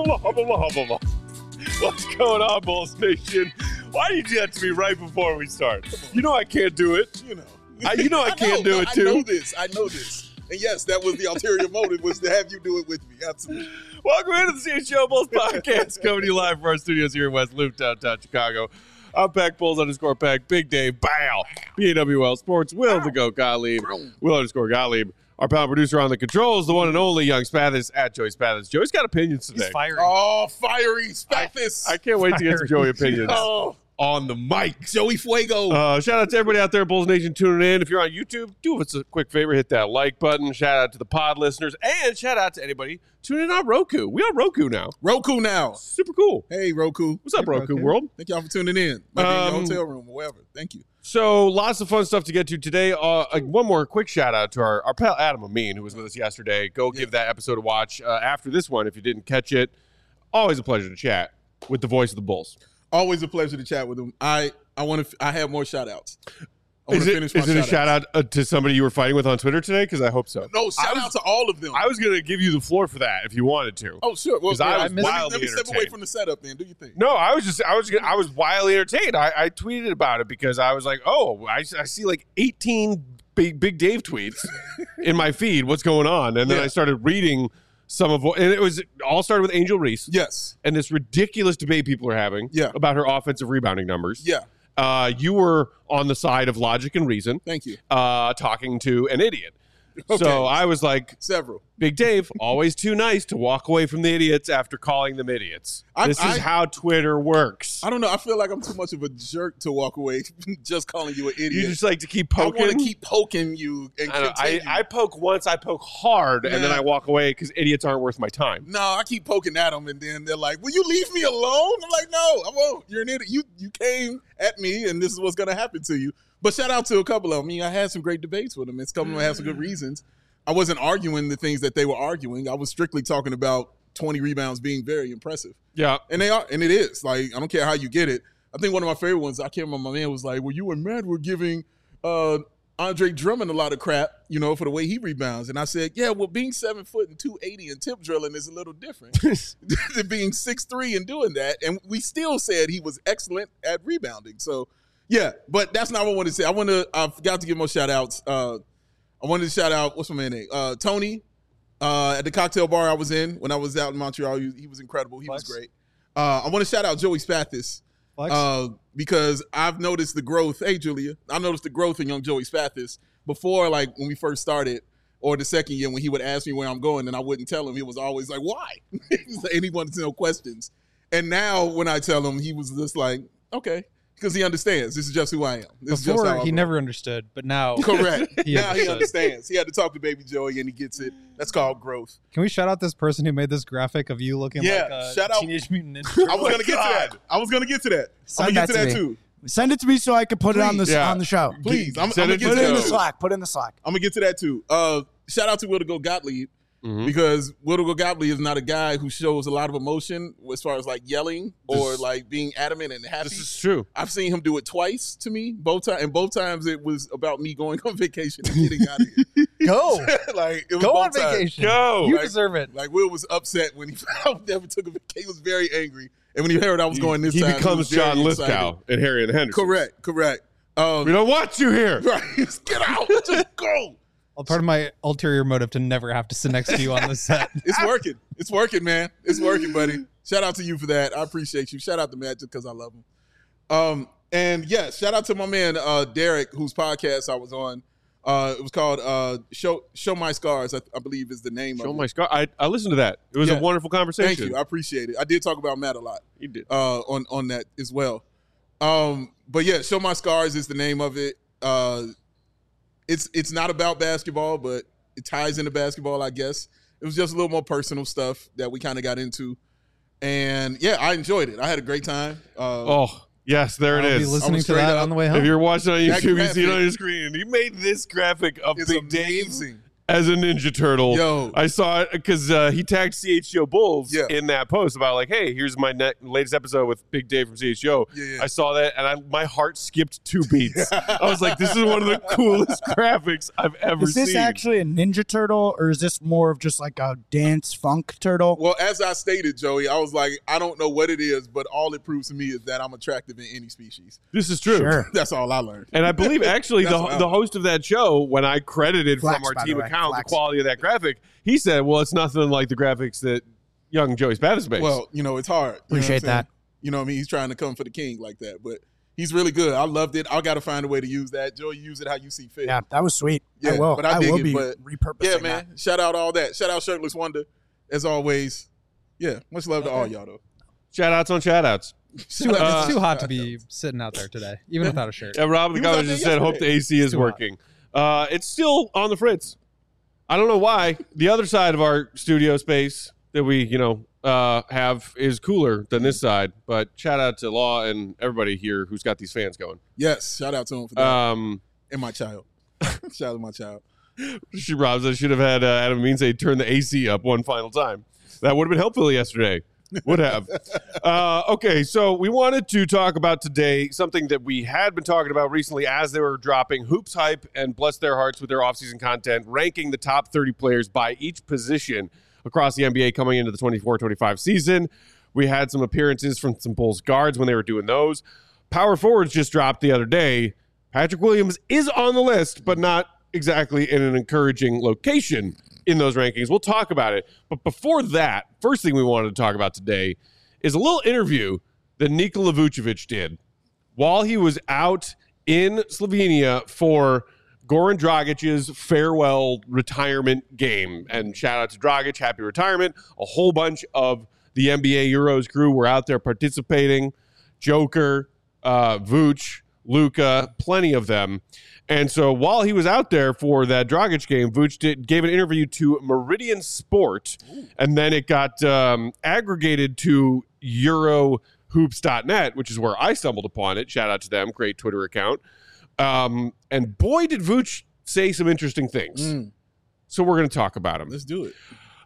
What's going on, Bulls Nation? Why do you do that to me right before we start? You know I can't do it. I can't do it too. I know this. And yes, that was the ulterior motive, was to have you do it with me. Absolutely. Welcome into the CHGO Bulls podcast, coming to you live from our studios here in West Loop, downtown Chicago. I'm Pack Bulls _Pack, Big Dave, Bow, BAWL Sports, Will the Goat Gottlieb, Will _Gottlieb. Our pound producer on the controls, the one and only Young Spathis at Joey Spathis. Joey's got opinions today. He's fiery. Oh, fiery Spathis. I can't wait to get some Joey opinions on the mic. Joey Fuego. Shout out to everybody out there, Bulls Nation, tuning in. If you're on YouTube, do us a quick favor, hit that like button. Shout out to the pod listeners, and shout out to anybody tuning in on Roku. We on Roku now. Roku now. Super cool. Hey, Roku. What's up, Roku world? Thank y'all for tuning in. Might be in your hotel room or wherever. Thank you. So lots of fun stuff to get to today. One more quick shout out to our pal Adam Amin, who was with us yesterday. Go give that episode a watch after this one if you didn't catch it. Always a pleasure to chat with the voice of the Bulls. Always a pleasure to chat with him. I have more shout outs. Is it a shout out to somebody you were fighting with on Twitter today? Because I hope so. No, shout out to all of them. I was going to give you the floor for that if you wanted to. Oh, sure. Well, I was wildly let me step entertained. away from the setup then. Do you think? No, I was wildly entertained. I tweeted about it because I was like, oh, I see like 18 Big Dave tweets in my feed. What's going on? And then I started reading some of what, and it all started with Angel Reese. Yes. And this ridiculous debate people are having about her offensive rebounding numbers. Yeah. You were on the side of logic and reason. Thank you. Talking to an idiot. Okay. So I was like, several. Big Dave, always too nice to walk away from the idiots after calling them idiots. This is how Twitter works. I don't know. I feel like I'm too much of a jerk to walk away just calling you an idiot. You just like to keep poking? I want to keep poking you and continue. I poke once, I poke hard, and then I walk away because idiots aren't worth my time. No, I keep poking at them, and then they're like, will you leave me alone? I'm like, no, I won't. You're an idiot. You came at me, and this is what's going to happen to you. But shout out to a couple of them. I mean, I had some great debates with them. It's coming to have some good reasons. I wasn't arguing the things that they were arguing. I was strictly talking about 20 rebounds being very impressive. Yeah. And they are, and it is. Like, I don't care how you get it. I think one of my favorite ones, I can't remember, my man was like, well, you and Matt were giving Andre Drummond a lot of crap, for the way he rebounds. And I said, yeah, well, being 7 foot and 280 and tip drilling is a little different than being 6'3" and doing that. And we still said he was excellent at rebounding. So, yeah, but that's not what I wanted to say. I forgot to give more shout outs. I wanted to shout out, what's my man's name? Tony at the cocktail bar I was in when I was out in Montreal. He was incredible. He was great. I want to shout out Joey Spathis because I've noticed the growth. Hey, Julia. I noticed the growth in young Joey Spathis before, like, when we first started, or the second year when he would ask me where I'm going and I wouldn't tell him. He was always like, why? And he wanted to know questions. And now when I tell him, he was just like, okay. Because he understands. This is just who I am. Before, he never understood, but now... Correct. He understands. He had to talk to Baby Joey, and he gets it. That's called growth. Can we shout out this person who made this graphic of you looking like a Teenage Mutant Ninja Turtle? I was going to get to that. I'm going to get to that, too. Send it to me so I can put it on the show. Please. I'm going to get it in the Slack. Put it in the Slack. I'm going to get to that, too. Shout out to Will the Goat Gottlieb. Because Will the Goat Gottlieb is not a guy who shows a lot of emotion as far as like yelling or like being adamant and happy. This is true. I've seen him do it twice to me, both times, and both times it was about me going on vacation and getting out of here. Go, like it was go on times. vacation. Go, you deserve it. Like Will was upset when he never took a vacation. He was very angry, and when he heard I was going this time, he becomes John Lithgow and Harry and Henderson. Correct. We don't want you here. Right, get out, just go. Well, part of my ulterior motive to never have to sit next to you on the set. It's working, man. It's working, buddy. Shout out to you for that. I appreciate you. Shout out to Matt just because I love him. And yeah, shout out to my man Derek, whose podcast I was on. It was called Show My Scars, I believe is the name of it. Show My Scars. I listened to that. It was a wonderful conversation. Thank you. I appreciate it. I did talk about Matt a lot. You did. On that as well. But yeah, Show My Scars is the name of it. It's not about basketball, but it ties into basketball, I guess. It was just a little more personal stuff that we kind of got into. And, yeah, I enjoyed it. I had a great time. Yes, there it is. I'll be listening to that on the way home. If you're watching on YouTube, you see it on your screen. You made this graphic of Big Dave as a Ninja Turtle. Yo. I saw it because he tagged CHGO Bulls in that post about like, hey, here's my latest episode with Big Dave from CHGO. Yeah. I saw that and my heart skipped 2 beats. I was like, this is one of the coolest graphics I've ever seen. Is this actually a Ninja Turtle or is this more of just like a dance funk turtle? Well, as I stated, Joey, I was like, I don't know what it is, but all it proves to me is that I'm attractive in any species. This is true. Sure. That's all I learned. And I believe actually the host of that show, when I credited Flex, from our by team the way. account Flex. the quality of that graphic, he said, well, it's nothing like the graphics that young Joey Spata's makes. Well, it's hard. Appreciate that. You know what I mean? He's trying to come for the king like that, but he's really good. I loved it. I got to find a way to use that. Joey, use it how you see fit. Yeah, that was sweet. Yeah, I will. but I dig will it, be but repurposing Yeah, man. that. Shout out all that. Shout out Shirtless Wonder, as always. Yeah, much love to all y'all, though. Shout outs on shout outs. It's too hot to be sitting out there today, even without a shirt. Yeah, Rob the He was out Governor there just said, hope the AC is Too hot. working. It's still on the fritz. I don't know why. The other side of our studio space that we, have is cooler than this side. But shout out to Law and everybody here who's got these fans going. Yes, shout out to him for that. And my child. Shout out to my child. Rob said should have had Adam Amin say turn the AC up one final time. That would have been helpful yesterday. Would have. Okay, so we wanted to talk about today something that we had been talking about recently as they were dropping Hoops Hype and bless their hearts with their offseason content, ranking the top 30 players by each position across the NBA coming into the 24-25 season. We had some appearances from some Bulls guards when they were doing those. Power forwards just dropped the other day. Patrick Williams is on the list, but not exactly in an encouraging location in those rankings. We'll talk about it. But before that, first thing we wanted to talk about today is a little interview that Nikola Vucevic did while he was out in Slovenia for Goran Dragic's farewell retirement game. And shout out to Dragic, happy retirement. A whole bunch of the NBA Euros crew were out there participating. Joker, Vooch, Luka, plenty of them. And so while he was out there for that Dragic game, Vooch gave an interview to Meridian Sport, and then it got aggregated to Eurohoops.net, which is where I stumbled upon it. Shout out to them, great Twitter account. And boy, did Vooch say some interesting things. So we're going to talk about him. Let's do it.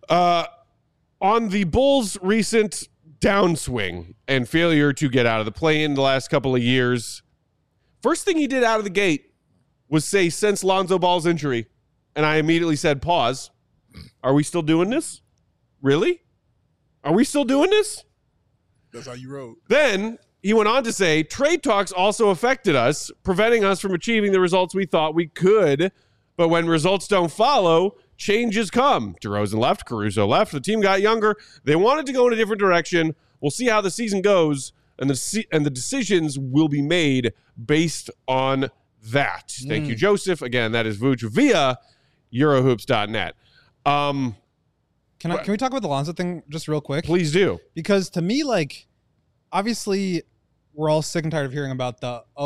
On the Bulls' recent downswing and failure to get out of the play-in the last couple of years, first thing he did out of the gate was say, since Lonzo Ball's injury, and I immediately said, pause. Are we still doing this? Really? Are we still doing this? That's how you wrote. Then he went on to say, trade talks also affected us, preventing us from achieving the results we thought we could. But when results don't follow, changes come. DeRozan left, Caruso left. The team got younger. They wanted to go in a different direction. We'll see how the season goes, and the decisions will be made based on that. Thank you, Joseph. Again, that is Vooch via Eurohoops.net. Can we talk about the Lonzo thing just real quick? Please do. Because to me, obviously, we're all sick and tired of hearing about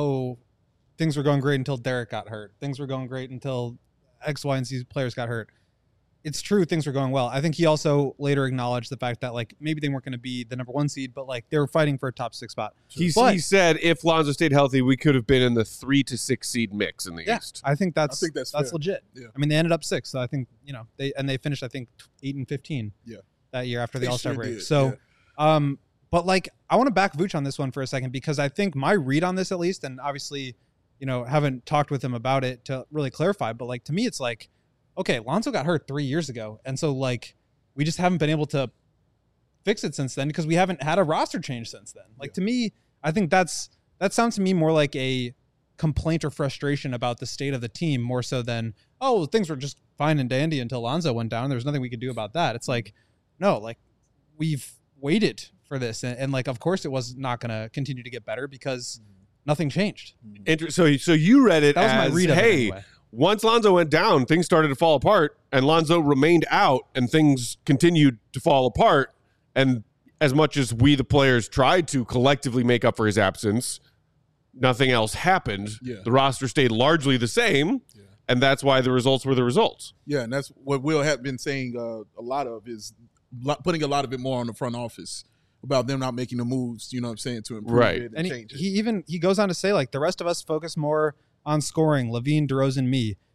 things were going great until Derek got hurt. Things were going great until X, Y, and Z players got hurt. It's true, things were going well. I think he also later acknowledged the fact that maybe they weren't going to be the number 1 seed, but they were fighting for a top 6 spot. He said if Lonzo stayed healthy, we could have been in the 3 to 6 seed mix in the East. I think that's fair. legit. Yeah. I mean, they ended up 6th. So I think they finished 8 and 15. Yeah. That year after the All-Star break. Did. So, but I want to back Vooch on this one for a second because I think my read on this at least, and obviously, haven't talked with him about it to really clarify, but to me, it's okay, Lonzo got hurt 3 years ago. And so we just haven't been able to fix it since then because we haven't had a roster change since then. To me, I think that sounds to me more like a complaint or frustration about the state of the team more so than, things were just fine and dandy until Lonzo went down. There was nothing we could do about that. It's no, we've waited for this. And of course it was not going to continue to get better because nothing changed. So you read it that was as, my read of it anyway. Once Lonzo went down, things started to fall apart, and Lonzo remained out, and things continued to fall apart. And as much as we, the players, tried to collectively make up for his absence, nothing else happened. Yeah. The roster stayed largely the same, and that's why the results were the results. Yeah, and that's what Will had been saying a lot of is putting a lot of it more on the front office about them not making the moves, to improve it and change it. He goes on to say, the rest of us focus more on scoring, Levine, DeRozan, me.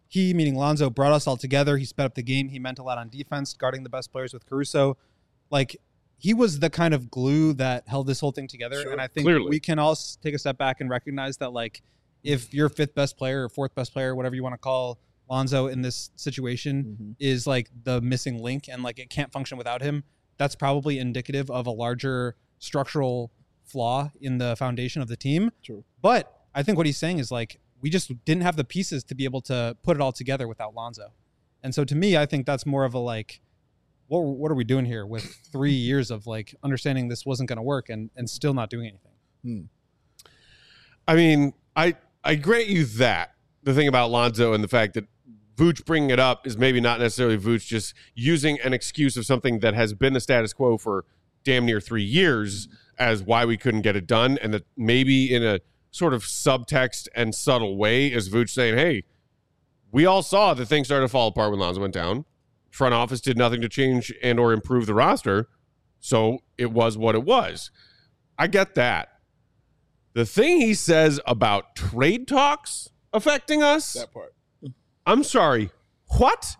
he, meaning Lonzo, brought us all together. He sped up the game. He meant a lot on defense, guarding the best players with Caruso. Like, he was the kind of glue that held this whole thing together. Sure. And I think Clearly. we can all take a step back and recognize that, like, if your fifth best player or fourth best player, whatever you want to call Lonzo in this situation, is like the missing link and like it can't function without him, that's probably indicative of a larger structural flaw in the foundation of the team. True. But I think what he's saying is like, we just didn't have the pieces to be able to put it all together without Lonzo. And so to me, I think that's more of a like, what are we doing here with 3 years of like understanding this wasn't going to work and still not doing anything? I mean, I grant you that. The thing about Lonzo and the fact that Vooch bringing it up is maybe not necessarily Vooch just using an excuse of something that has been the status quo for damn near 3 years as why we couldn't get it done. And that maybe in a sort of subtext and subtle way is Vooch saying, hey, we all saw that things started to fall apart when Lonzo went down. Front office did nothing to change and or improve the roster. So it was what it was. I get that. The thing he says about trade talks affecting us, That part. I'm sorry, what?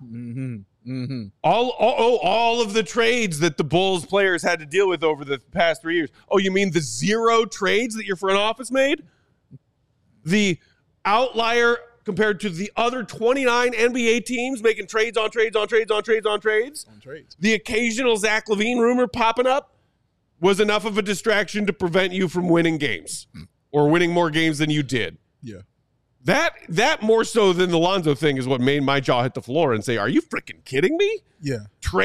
All of the trades that the Bulls players had to deal with over the past 3 years. Oh, you mean the 0 trades that your front office made? The outlier compared to the other 29 NBA teams making trades on trades on trades on trades on trades? On trades. The occasional Zach LaVine rumor popping up was enough of a distraction to prevent you from winning games or winning more games than you did. Yeah. That more so than the Lonzo thing is what made my jaw hit the floor and say, are you freaking kidding me? Yeah.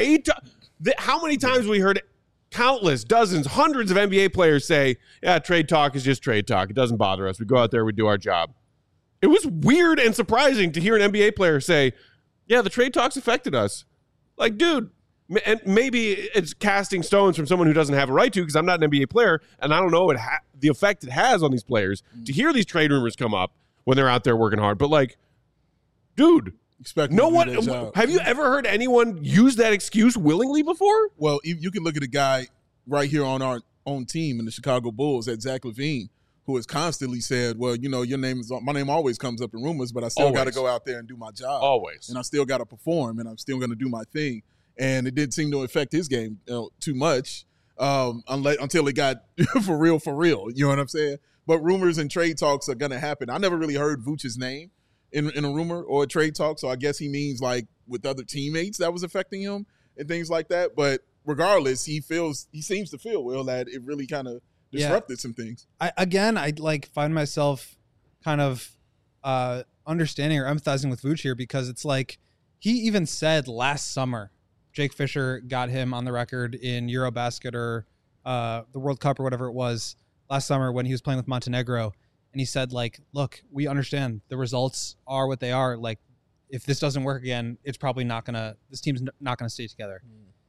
How many times we heard countless, dozens, hundreds of NBA players say, yeah, trade talk is just trade talk. It doesn't bother us. We go out there, we do our job. It was weird and surprising to hear an NBA player say, yeah, the trade talks affected us. Like, dude, and maybe it's casting stones from someone who doesn't have a right to, because I'm not an NBA player, and I don't know the effect it has on these players to hear these trade rumors come up when they're out there working hard. But like, dude, no one. Have you ever heard anyone use that excuse willingly before? Well, you can look at a guy right here on our own team in the Chicago Bulls, at Zach LaVine, who has constantly said, well, you know, my name always comes up in rumors, but I still got to go out there and do my job. Always. And I still got to perform, and I'm still going to do my thing. And it didn't seem to affect his game too much until it got for real. You know what I'm saying? But rumors and trade talks are going to happen. I never really heard Vooch's name in a rumor or a trade talk, so I guess he means like with other teammates that was affecting him and things like that. But regardless, he seems to feel, Will, that it really kind of disrupted some things. I like find myself kind of understanding or empathizing with Vooch here, because it's like he even said last summer, Jake Fisher got him on the record in Eurobasket or the World Cup or whatever it was last summer when he was playing with Montenegro. And he said, like, look, we understand the results are what they are. Like, if this doesn't work again, it's probably this team's not going to stay together.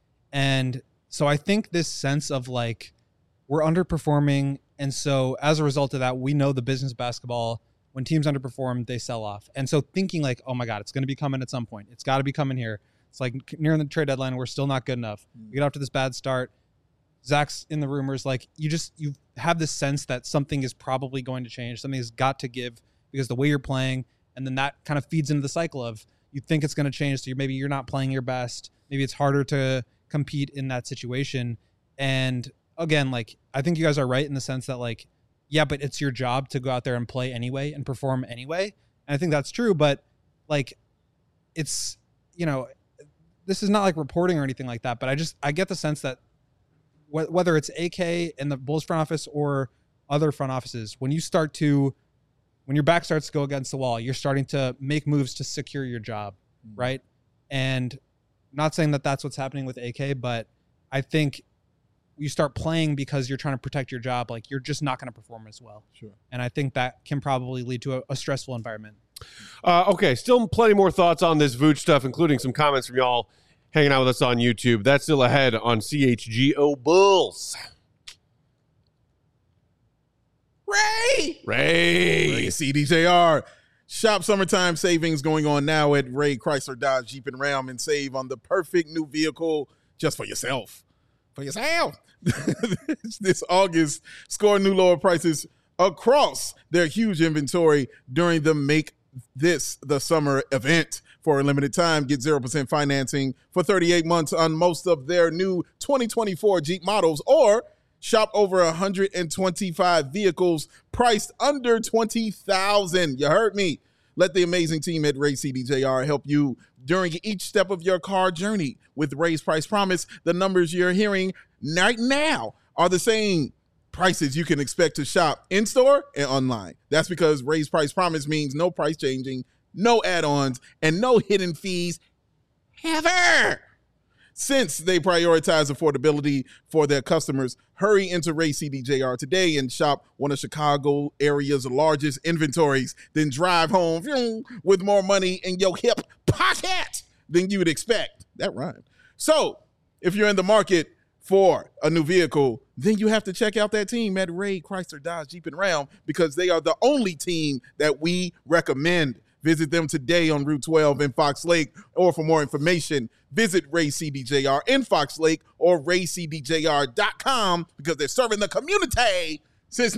And so I think this sense of like, we're underperforming. And so as a result of that, we know the business of basketball, when teams underperform, they sell off. And so thinking like, oh my God, it's going to be coming at some point. It's got to be coming here. It's like nearing the trade deadline, we're still not good enough. We get off to this bad start. Zach's in the rumors. Like, you have this sense that something is probably going to change. Something has got to give because the way you're playing, and then that kind of feeds into the cycle of you think it's going to change. So maybe you're not playing your best. Maybe it's harder to compete in that situation. And again, like, I think you guys are right in the sense that like, yeah, but it's your job to go out there and play anyway and perform anyway. And I think that's true, but like, it's, you know, this is not like reporting or anything like that, but I get the sense that whether it's AK in the Bulls front office or other front offices, when your back starts to go against the wall, you're starting to make moves to secure your job, right? And not saying that that's what's happening with AK, but I think you start playing because you're trying to protect your job. Like, you're just not going to perform as well. Sure. And I think that can probably lead to a stressful environment. Okay, still plenty more thoughts on this Vooch stuff, including some comments from y'all hanging out with us on YouTube. That's still ahead on CHGO Bulls. Ray CDJR. Shop summertime savings going on now at Ray Chrysler Dodge Jeep and Ram, and save on the perfect new vehicle just for yourself. This August, score new lower prices across their huge inventory during the Make the summer event for a limited time. Get 0% financing for 38 months on most of their new 2024 Jeep models, or shop over 125 vehicles priced under $20,000. You heard me. Let the amazing team at Ray CDJR help you during each step of your car journey. With Ray's Price Promise, the numbers you're hearing right now are the same prices you can expect to shop in-store and online. That's because Ray's Price Promise means no price changing, no add-ons, and no hidden fees ever. Since they prioritize affordability for their customers, hurry into Ray CDJR today and shop one of Chicago area's largest inventories. Then drive home with more money in your hip pocket than you would expect. That rhymed. So if you're in the market for a new vehicle, then you have to check out that team at Ray Chrysler Dodge Jeep and Ram, because they are the only team that we recommend. Visit them today on Route 12 in Fox Lake, or for more information, visit Ray CDJR in Fox Lake or raycdjr.com, because they're serving the community since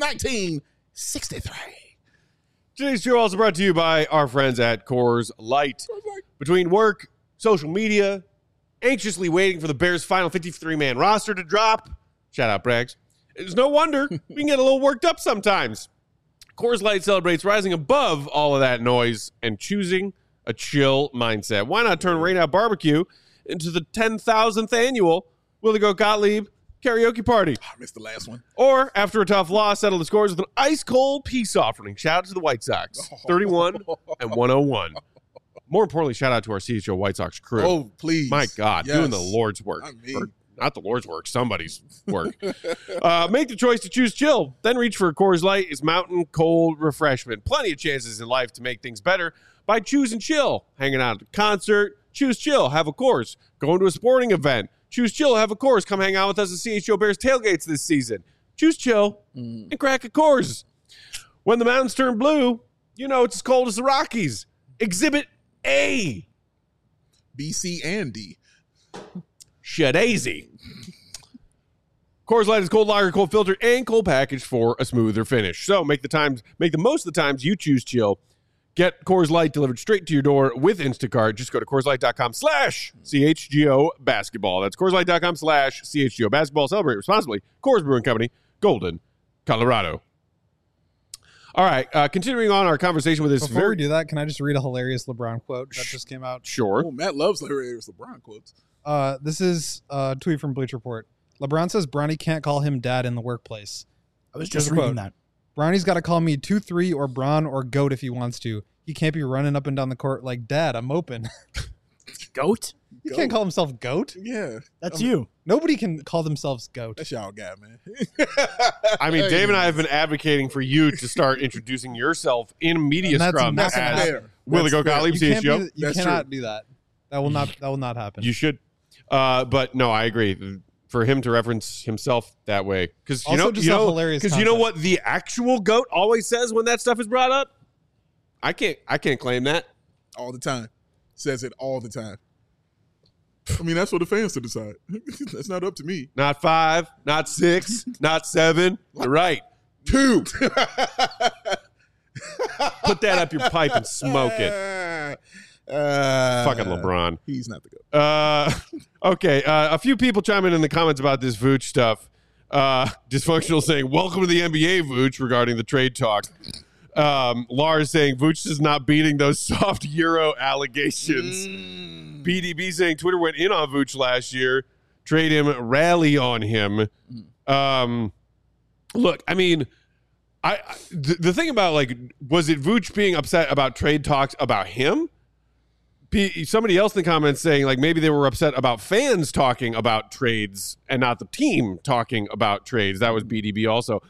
1963. Today's show also brought to you by our friends at Coors Light. Between work, social media, anxiously waiting for the Bears' final 53-man roster to drop, shout out Braggs, it's no wonder we can get a little worked up sometimes. Coors Light celebrates rising above all of that noise and choosing a chill mindset. Why not turn Rain Out Barbecue into the 10,000th annual Willie Goat Gottlieb karaoke party? I missed the last one. Or, after a tough loss, settle the scores with an ice-cold peace offering. Shout out to the White Sox, 31 and 101. More importantly, shout out to our CHO White Sox crew. Oh, please. My God, Yes. doing the Lord's work. I mean. Or not the Lord's work, somebody's work. Make the choice to choose chill. Then reach for Coors Light. It's mountain cold refreshment. Plenty of chances in life to make things better by choosing chill. Hanging out at a concert, choose chill, have a Coors. Going to a sporting event, choose chill, have a Coors. Come hang out with us at CHO Bears tailgates this season. Choose chill and crack a Coors. When the mountains turn blue, you know it's as cold as the Rockies. Exhibit A. B, C, and D. Shadazy. Coors Light is cold lager, cold filtered, and cold packaged for a smoother finish. So make the most of the times you choose chill. Get Coors Light delivered straight to your door with Instacart. Just go to CoorsLight.com/CHGO basketball. That's CoorsLight.com/CHGO basketball. Celebrate responsibly. Coors Brewing Company, Golden, Colorado. All right, continuing on our conversation with this. Before we do that, can I just read a hilarious LeBron quote that just came out? Sure. Oh, Matt loves hilarious LeBron quotes. This is a tweet from Bleacher Report. LeBron says Bronny can't call him dad in the workplace. I was Here's just a reading quote. that. Bronny's got to call me 2-3 or Bron or Goat if he wants to. He can't be running up and down the court like, Dad, I'm open. Goat? He can't call himself Goat. Yeah. That's you. Nobody can call themselves Goat. That's y'all guy, man. I mean, Dave and I have been advocating for you to start introducing yourself in media And that's scrum not gonna as happen. Willie Goat That's Gottlieb, You, can't CHGO. be, you That's cannot do that. That will not happen. You should. But no, I agree. For him to reference himself that way, because Also just have hilarious because you know content. what the actual goat always says when that stuff is brought up. I can't claim that. All the time. Says it all the time. I mean, that's for the fans to decide. That's not up to me. Not 5, not 6, not 7. You're right. 2. Put that up your pipe and smoke it. Fucking LeBron. He's not the goat. Okay. A few people chiming in the comments about this Vooch stuff. Dysfunctional saying, welcome to the NBA, Vooch, regarding the trade talk. Lars saying, Vooch is not beating those soft Euro allegations. PDB saying, Twitter went in on Vooch last year. Trade him, rally on him. Look, I mean, the thing about, like, was it Vooch being upset about trade talks about him? Somebody else in the comments saying, like, maybe they were upset about fans talking about trades and not the team talking about trades. That was BDB also.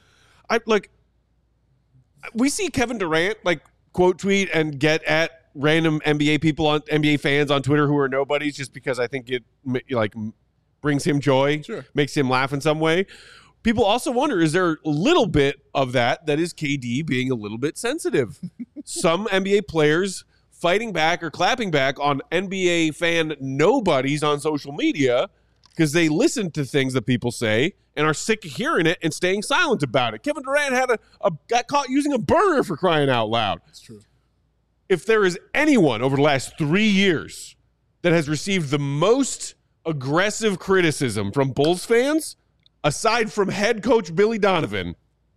We see Kevin Durant, like, quote tweet and get at random NBA fans on Twitter who are nobodies just because I think it, like, brings him joy, Sure. makes him laugh in some way. People also wonder, is there a little bit of that is KD being a little bit sensitive? Some NBA players fighting back or clapping back on NBA fan nobodies on social media because they listen to things that people say and are sick of hearing it and staying silent about it. Kevin Durant got caught using a burner for crying out loud. That's true. if there is anyone over the last 3 years that has received the most aggressive criticism from Bulls fans, aside from head coach Billy Donovan,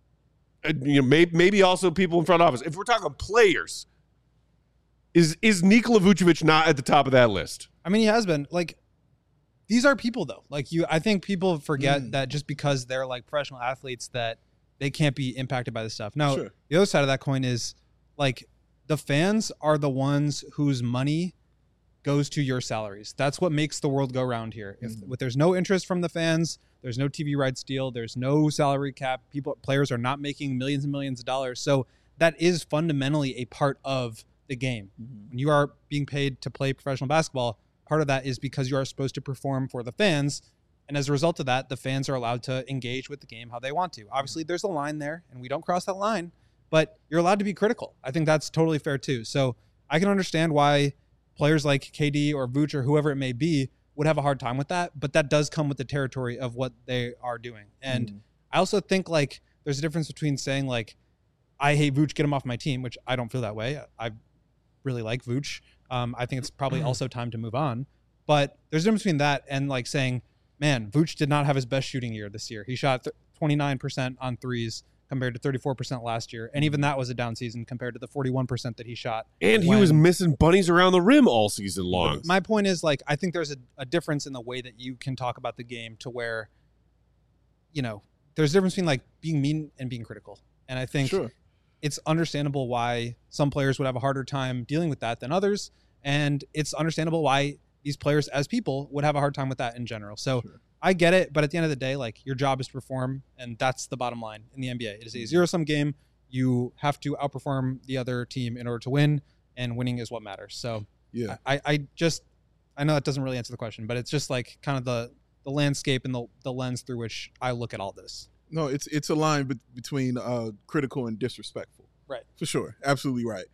maybe also people in front office, if we're talking players, is Nikola Vucevic not at the top of that list? I mean, he has been. Like, these are people, though. Like, I think people forget that just because they're like professional athletes that they can't be impacted by this stuff. Now, the other side of that coin is like the fans are the ones whose money goes to your salaries. That's what makes the world go round here. If there's no interest from the fans, there's no TV rights deal, there's no salary cap, players are not making millions and millions of dollars. So that is fundamentally a part of the game. When you are being paid to play professional basketball, part of that is because you are supposed to perform for the fans. And as a result of that, the fans are allowed to engage with the game how they want to. Obviously, there's a line there, and we don't cross that line, but you're allowed to be critical. I think that's totally fair too. So I can understand why players like KD or Vooch or whoever it may be would have a hard time with that, but that does come with the territory of what they are doing. And I also think like there's a difference between saying like, I hate Vooch, get him off my team, which I don't feel that way. I really like Vooch. I think it's probably also time to move on. But there's a difference between that and like saying, man, Vooch did not have his best shooting year this year. He shot 29% on threes compared to 34% last year. And even that was a down season compared to the 41% that he shot. And he was missing bunnies around the rim all season long. My point is, like, I think there's a difference in the way that you can talk about the game to where, you know, there's a difference between, like, being mean and being critical. And I think it's understandable why some players would have a harder time dealing with that than others. And it's understandable why these players as people would have a hard time with that in general. So I get it, but at the end of the day, like, your job is to perform, and that's the bottom line in the NBA. It is a zero-sum game. You have to outperform the other team in order to win, and winning is what matters. So I know that doesn't really answer the question, but it's just like kind of the landscape and the lens through which I look at all this. No, it's a line between critical and disrespectful. Right. For sure. Absolutely right.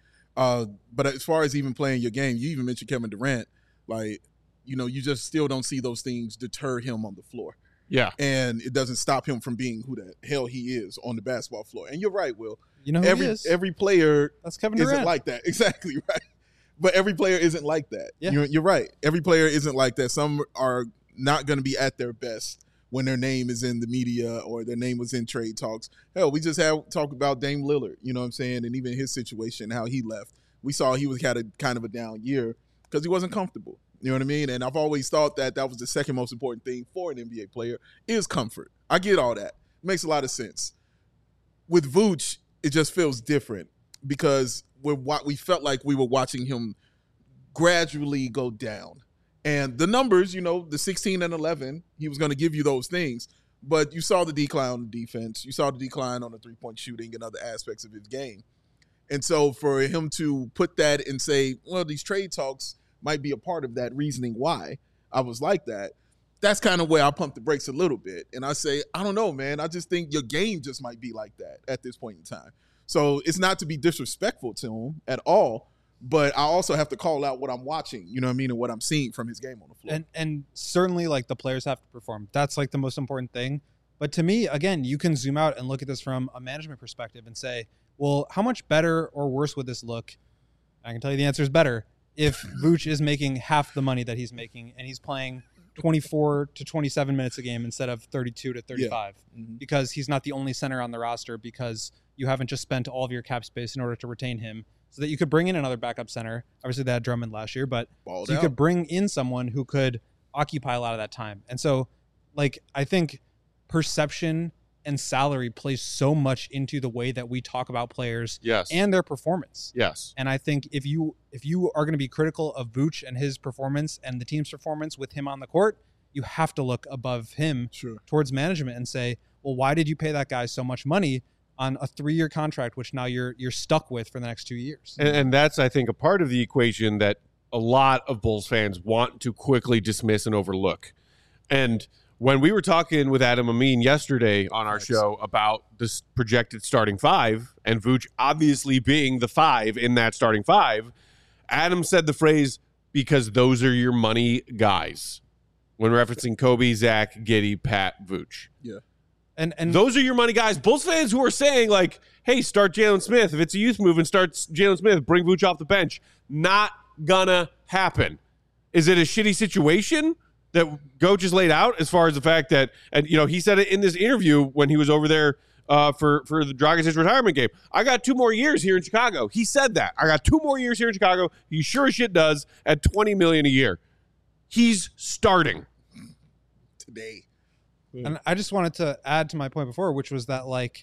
But as far as even playing your game, you even mentioned Kevin Durant, like, you know, you just still don't see those things deter him on the floor. Yeah. And it doesn't stop him from being who the hell he is on the basketball floor. And you're right, Will. You know who he is? Every player That's Kevin Durant. isn't like that. Exactly right. But every player isn't like that. Yeah. You're right. Every player isn't like that. Some are not going to be at their best when their name is in the media or their name was in trade talks. Hell, we just talked about Dame Lillard, you know what I'm saying? And even his situation, how he left. We saw he had a kind of a down year because he wasn't comfortable. You know what I mean? And I've always thought that was the second most important thing for an NBA player is comfort. I get all that. It makes a lot of sense. With Vooch, it just feels different because we felt like we were watching him gradually go down. And the numbers, you know, the 16 and 11, he was going to give you those things. But you saw the decline on the defense. You saw the decline on the three-point shooting and other aspects of his game. And so for him to put that and say, well, these trade talks might be a part of that reasoning why I was like that, that's kind of where I pump the brakes a little bit. And I say, I don't know, man. I just think your game just might be like that at this point in time. So it's not to be disrespectful to him at all, but I also have to call out what I'm watching, you know what I mean, and what I'm seeing from his game on the floor. And certainly, like, the players have to perform. That's, like, the most important thing. But to me, again, you can zoom out and look at this from a management perspective and say, well, how much better or worse would this look? I can tell you the answer is better if Vooch is making half the money that he's making and he's playing 24 to 27 minutes a game instead of 32 to 35 because he's not the only center on the roster, because you haven't just spent all of your cap space in order to retain him, so that you could bring in another backup center. Obviously they had Drummond last year, but so you could bring in someone who could occupy a lot of that time. And so, like, I think perception and salary plays so much into the way that we talk about players and their performance. Yes. And I think if you are going to be critical of Vooch and his performance and the team's performance with him on the court, you have to look above him towards management and say, well, why did you pay that guy so much money on a 3-year contract, which now you're stuck with for the next 2 years? And that's, I think, a part of the equation that a lot of Bulls fans want to quickly dismiss and overlook. And when we were talking with Adam Amin yesterday on our show about this projected starting five, and Vooch obviously being the 5 in that starting 5, Adam said the phrase, because those are your money guys, when referencing Kobe, Zach, Giddey, Pat, Vooch. Yeah. And those are your money guys. Bulls fans who are saying, like, hey, start Jalen Smith. If it's a youth move and start Jalen Smith, bring Vooch off the bench. Not gonna happen. Is it a shitty situation that Go just laid out as far as the fact that, and he said it in this interview when he was over there for the Dragic retirement game. I got 2 more years here in Chicago. He said that. I got 2 more years here in Chicago. He sure as shit does at $20 million a year. He's starting today. And I just wanted to add to my point before, which was that, like,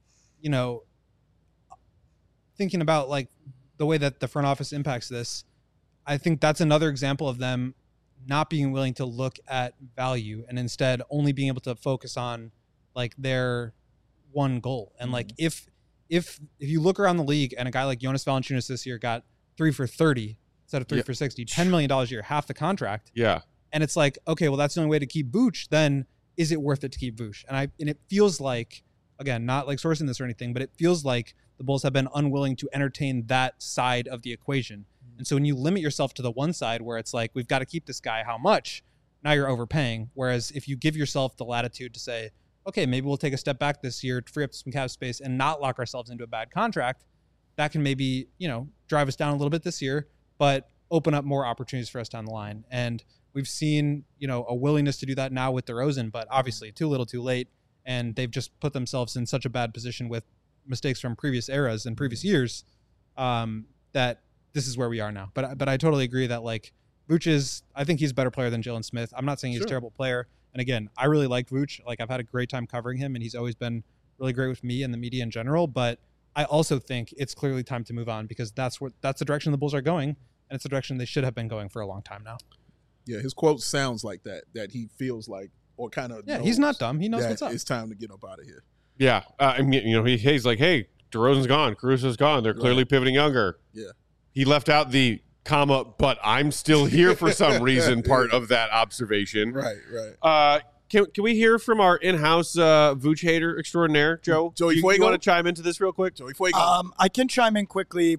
thinking about like the way that the front office impacts this, I think that's another example of them not being willing to look at value and instead only being able to focus on like their one goal. And like if you look around the league and a guy like Jonas Valanciunas this year got 3 for 30 instead of 3 for 60, $10 million a year, half the contract. Yeah. And it's like, okay, well, that's the only way to keep Vooch. Then is it worth it to keep Vooch? And it feels like, again, not like sourcing this or anything, but it feels like the Bulls have been unwilling to entertain that side of the equation. And so when you limit yourself to the one side where it's like, we've got to keep this guy, how much? Now you're overpaying. Whereas if you give yourself the latitude to say, okay, maybe we'll take a step back this year to free up some cap space and not lock ourselves into a bad contract, that can maybe, drive us down a little bit this year, but open up more opportunities for us down the line. And we've seen, a willingness to do that now with DeRozan, but obviously too little too late. And they've just put themselves in such a bad position with mistakes from previous eras and previous years that this is where we are now. But I totally agree that like Vooch I think he's a better player than Jalen Smith. I'm not saying he's a terrible player. And again, I really like Vooch. Like I've had a great time covering him and he's always been really great with me and the media in general. But I also think it's clearly time to move on because that's the direction the Bulls are going. And it's the direction they should have been going for a long time now. Yeah, his quote sounds like that he feels like, or kind of he's not dumb. He knows what's up. It's time to get up out of here. Yeah. He's like, hey, DeRozan's gone. Caruso's gone. They're clearly pivoting younger. Yeah. He left out the comma, but I'm still here for some reason part of that observation. Right. Can we hear from our in-house Vooch hater extraordinaire, Joe? Joey you Fuego? Want to chime into this real quick? Joey Fuego. I can chime in quickly.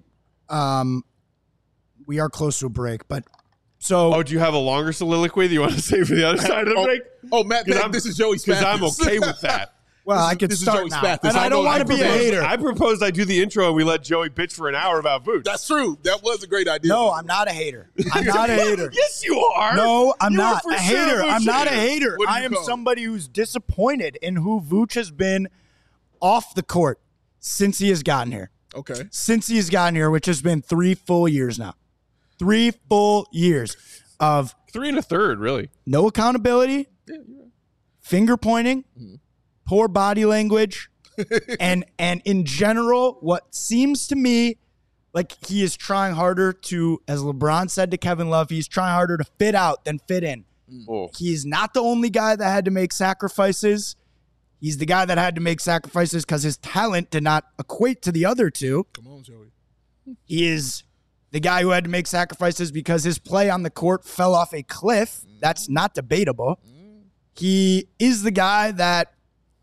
We are close to a break, but so. Oh, do you have a longer soliloquy that you want to say for the other side of the break? Oh, Matt, this is Joey Spathis. Because I'm okay with that. Well, I could start now. Spathis. And I don't want to be a hater. I proposed I do the intro and we let Joey bitch for an hour about Vooch. That's true. That was a great idea. No, I'm not a hater. I'm not a hater. Yes, you are. No, I'm You are not for a sure hater. Vooch I'm not a hater. hater. What do I you am call it? somebody who's disappointed in who Vooch has been off the court since he has gotten here. Okay. Since he has gotten here, which has been 3 full years now. 3 full years of 3 1/3, really. no accountability, finger pointing, poor body language, and in general, what seems to me like he is trying harder to, as LeBron said to Kevin Love, he's trying harder to fit out than fit in. Oh. He's not the only guy that had to make sacrifices. He's the guy that had to make sacrifices because his talent did not equate to the other two. Come on, Joey. He is the guy who had to make sacrifices because his play on the court fell off a cliff. That's not debatable. He is the guy that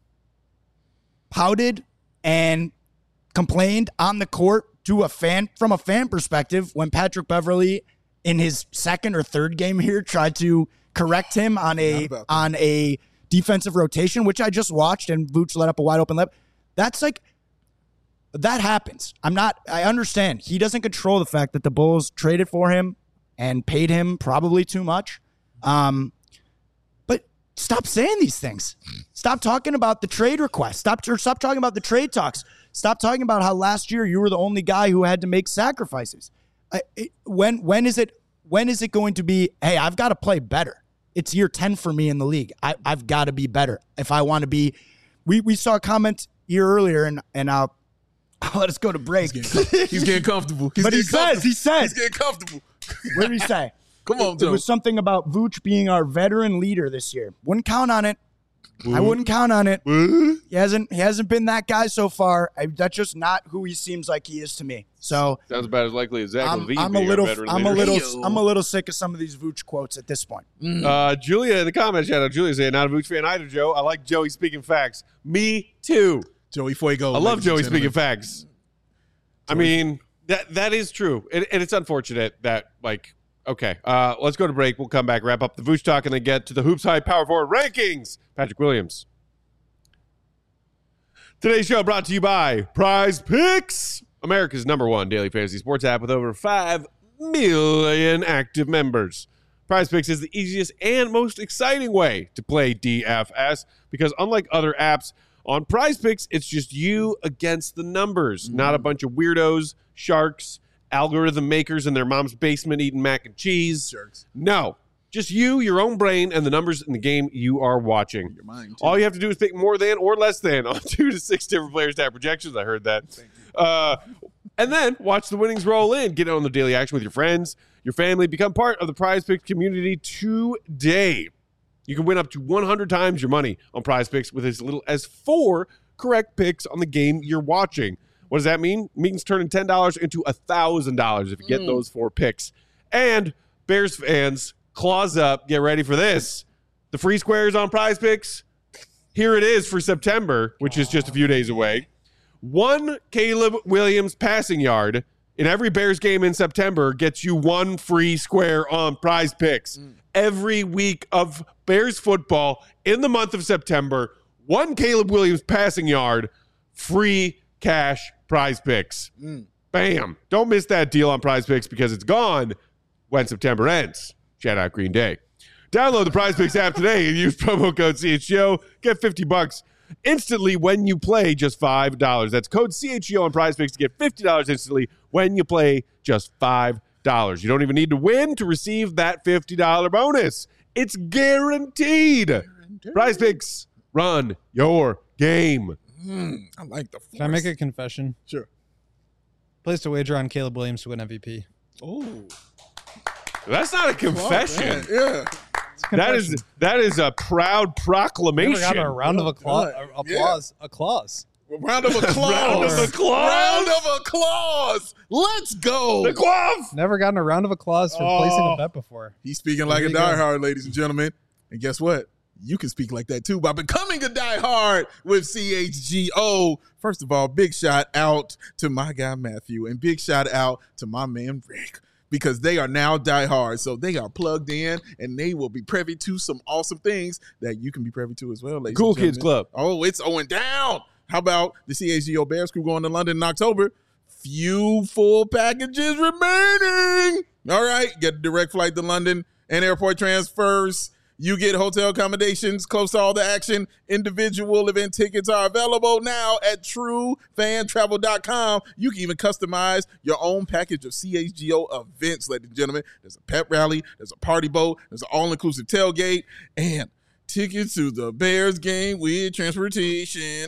pouted and complained on the court to a fan from a fan perspective when Patrick Beverley in his 2nd or 3rd game here tried to correct him on a defensive rotation, which I just watched, and Vooch let up a wide open lip. That's like, that happens. I understand. He doesn't control the fact that the Bulls traded for him and paid him probably too much. But stop saying these things. Stop talking about the trade request. Stop talking about the trade talks. Stop talking about how last year you were the only guy who had to make sacrifices. When is it going to be, hey, I've got to play better? It's year 10 for me in the league. I've got to be better if I want to be. We saw a comment here earlier, and I'll let us go to break. He's getting comfortable. But he says. He's getting comfortable. What did he say? Come on, Joe. It was something about Vooch being our veteran leader this year. Wouldn't count on it. I wouldn't count on it. He hasn't been that guy so far. That's just not who he seems like he is to me. So Sounds about as likely as Zach LaVine I'm being a little veteran I'm a leader. little I'm a little sick of some of these Vooch quotes at this point. Julia in the comments, shout out Julia saying, not a Vooch fan either, Joe. I like Joey speaking facts. Me too. Joey Fuego. I love ladies Joey and speaking gentlemen. facts. I mean, that is true. And it's unfortunate that, like, okay, let's go to break. We'll come back, wrap up the Vooch talk, and then get to the Hoops High Power Forward rankings. Patrick Williams. Today's show brought to you by Prize Picks, America's #1 daily fantasy sports app with over 5 million active members. Prize Picks is the easiest and most exciting way to play DFS because unlike other apps, on Prize Picks, it's just you against the numbers, not a bunch of weirdos, sharks, algorithm makers in their mom's basement eating mac and cheese. Jerks. No, just you, your own brain, and the numbers in the game you are watching. Your mind, too. All you have to do is pick more than or less than on 2 to 6 different players to have projections. I heard that. And then watch the winnings roll in. Get on the daily action with your friends, your family. Become part of the Prize Picks community today. You can win up to 100 times your money on Prize Picks with as little as 4 correct picks on the game you're watching. What does that mean? It means turning $10 into $1,000 if you get those 4 picks. And Bears fans, claws up, get ready for this. The free squares on Prize Picks, here it is for September, which is just a few days away. 1 Caleb Williams passing yard in every Bears game in September gets you 1 free square on Prize Picks. Every week of Bears football in the month of September, 1 Caleb Williams passing yard, free cash Prize Picks. Bam. Don't miss that deal on Prize Picks because it's gone when September ends. Shout out Green Day. Download the Prize Picks app today and use promo code CHGO. Get $50 instantly when you play just $5. That's code CHGO on Prize Picks to get $50 instantly when you play just $5. You don't even need to win to receive that $50 bonus. It's guaranteed. Prize Picks, run your game. I like the force. Can I make a confession? Sure. Placed a wager on Caleb Williams to win MVP. Oh. That's not a confession. Yeah. That is a proud proclamation. Never got a round of applause. Yeah. Applause. Round of applause. Round of applause. Round of applause. Let's go. The glove. Never gotten a round of applause for placing a bet before. He's speaking like a diehard, ladies and gentlemen. And guess what? You can speak like that too by becoming a diehard with CHGO. First of all, big shout out to my guy Matthew and big shout out to my man Rick because they are now diehard. So they are plugged in and they will be privy to some awesome things that you can be privy to as well, ladies Cool and gentlemen. Kids Club. Oh, it's going down. How about the CHGO Bears crew going to London in October? Few full packages remaining. All right, get a direct flight to London and airport transfers. You get hotel accommodations close to all the action. Individual event tickets are available now at truefantravel.com. You can even customize your own package of CHGO events, ladies and gentlemen. There's a pep rally, there's a party boat, there's an all-inclusive tailgate, and tickets to the Bears game with transportation.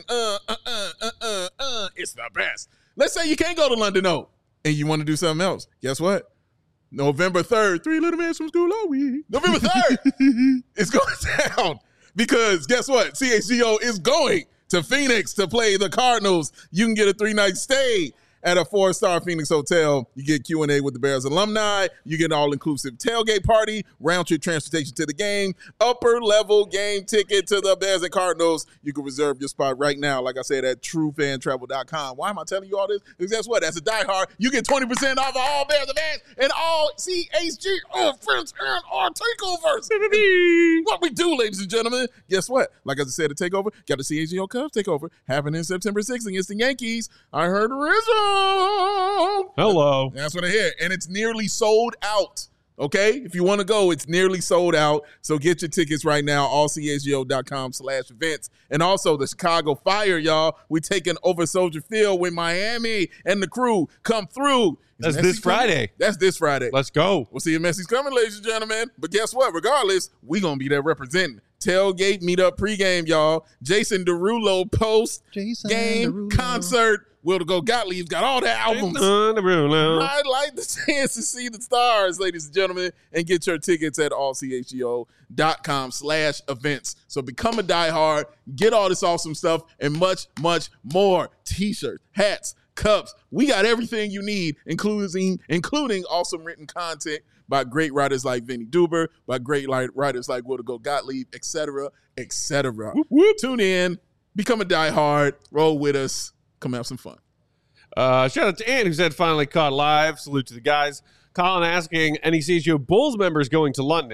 It's the best. Let's say you can't go to London, though, and you want to do something else. Guess what? November 3rd, 3 little men from school all week. November 3rd, it's going down because guess what? CHGO is going to Phoenix to play the Cardinals. You can get a 3-night stay at a 4-star Phoenix hotel. You get Q&A with the Bears alumni. You get an all-inclusive tailgate party, round-trip transportation to the game, upper-level game ticket to the Bears and Cardinals. You can reserve your spot right now, like I said, at truefantravel.com. Why am I telling you all this? Because guess what? As a diehard, you get 20% off of all Bears events and all CHGO events and our takeovers. What we do, ladies and gentlemen. Guess what? Like I said, the takeover, got the CHGO Cubs takeover happening September 6th against the Yankees. I heard Rizzo. Hello. That's what I hear. And it's nearly sold out. Okay? If you want to go, it's nearly sold out. So get your tickets right now, allchgo.com/events. And also the Chicago Fire, y'all. We're taking over Soldier Field with Miami and the crew come through. That's this Friday. That's this Friday. Let's go. We'll see if Messi's coming, ladies and gentlemen. But guess what? Regardless, we going to be there representing. Tailgate, meet up, pregame, y'all. Jason Derulo post-game concert. Will to Go Gottlieb's got all the albums. I'd like the chance to see the stars, ladies and gentlemen, and get your tickets at allchgo.com/events. So become a diehard, get all this awesome stuff, and much, much more. T-shirts, hats, cups. We got everything you need, including awesome written content by great writers like Vinny Duber, by great writers like Will to Go Gottlieb, etc., etc. Whoop, whoop. Tune in, become a diehard, roll with us. Come have some fun. Shout out to Ann, who said finally caught live. Salute to the guys. Colin asking, any CHGO Bulls members going to London?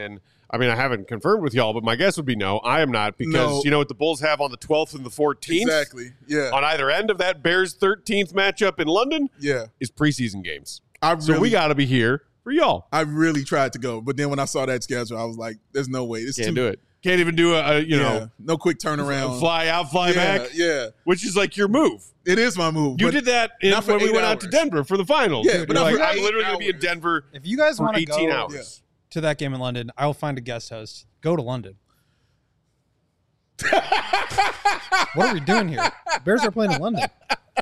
I mean, I haven't confirmed with y'all, but my guess would be no. I am not because you know what the Bulls have on the 12th and the 14th? Exactly. Yeah. On either end of that Bears 13th matchup in London is preseason games. So we got to be here for y'all. I really tried to go, but then when I saw that schedule, I was like, there's no way. Can't do it. Can't even do no quick turnaround. Fly out, fly back. Yeah. Which is like your move. It is my move. You did that when we went out to Denver for the finals. Yeah, but I'm literally going to be in Denver if you guys want to 18 go hours. To that game in London, I will find a guest host. Go to London. What are we doing here? Bears are playing in London.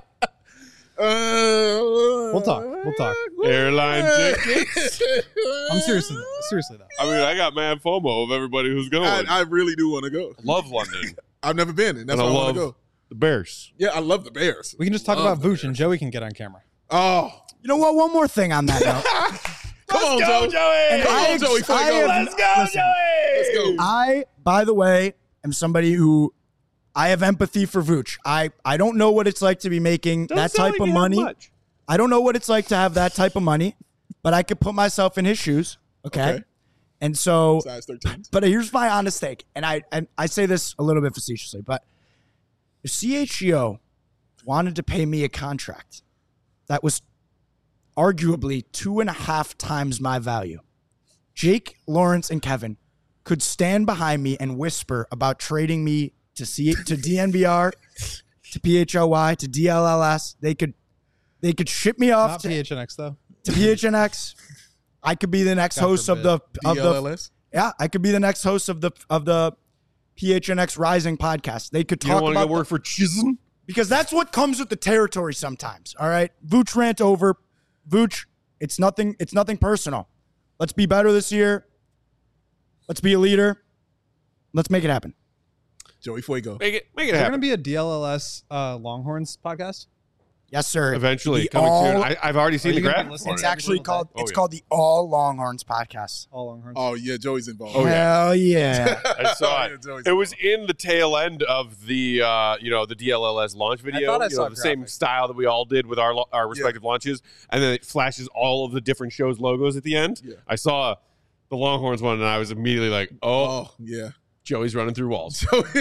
We'll talk. Airline tickets. I'm seriously though. I mean, I got mad FOMO of everybody who's going. I really do want to go. Love London. I've never been, and that's why I want to go. The Bears. Yeah, I love the Bears. We can just talk about Vooch, and Joey can get on camera. Oh, You know what? One more thing on that note. Come on, Joey. And Joey. Let's go, Joey. Let's go. I, by the way, am somebody who I have empathy for Vooch. I don't know what it's like to be making that type of money. I don't know what it's like to have that type of money, but I could put myself in his shoes. Okay. And so, Size 13. but here's my honest take. And I say this a little bit facetiously, but if CHGO wanted to pay me a contract that was arguably 2.5 times my value, Jake, Lawrence, and Kevin could stand behind me and whisper about trading me to DNVR, to PHLY, to DLLS. They could ship me off Not PHNX though. to PHNX. I could be the next host of the DLLS? I could be the next host of the PHNX Rising podcast. They could You don't talk want to about go work for Chisholm? because that's what comes with the territory sometimes. All right, Vooch rant over. Vooch, it's nothing personal. Let's be better this year. Let's be a leader. Let's make it happen. Joey Fuego. Make it Is there going to happen. be a DLLS Longhorns podcast? Yes, sir. Eventually, The coming soon. all- I've already seen Are the you gonna graphic. be listening It's to actually every called. single It's yeah. called the All Longhorns podcast. All Longhorns. Oh, yeah, Joey's involved. Oh, yeah. Hell yeah! I saw Yeah, it. Joey's It was in the tail end of the the DLLS launch video. thought I saw the same graphics. style that we all did with our respective launches, and then it flashes all of the different shows logos at the end. Yeah. I saw the Longhorns one, and I was immediately like, "Oh, Oh, yeah. Joey's running through walls."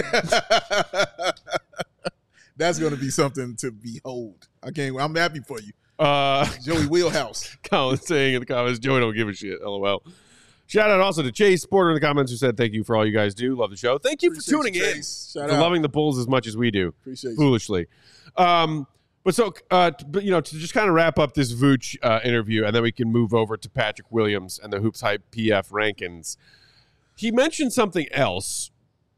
That's going to be something to behold. I'm happy for you. Joey Wheelhouse. Colin saying in the comments, Joey don't give a shit. LOL. Shout out also to Chase Porter in the comments who said, "Thank you for all you guys do. Love the show. Thank you for Appreciate tuning you, in, Chase. Shout for out. loving the Bulls as much as we do." Appreciate you. Foolishly. But to just kind of wrap up this Vooch interview, and then we can move over to Patrick Williams and the Hoops Hype PF rankings. He mentioned something else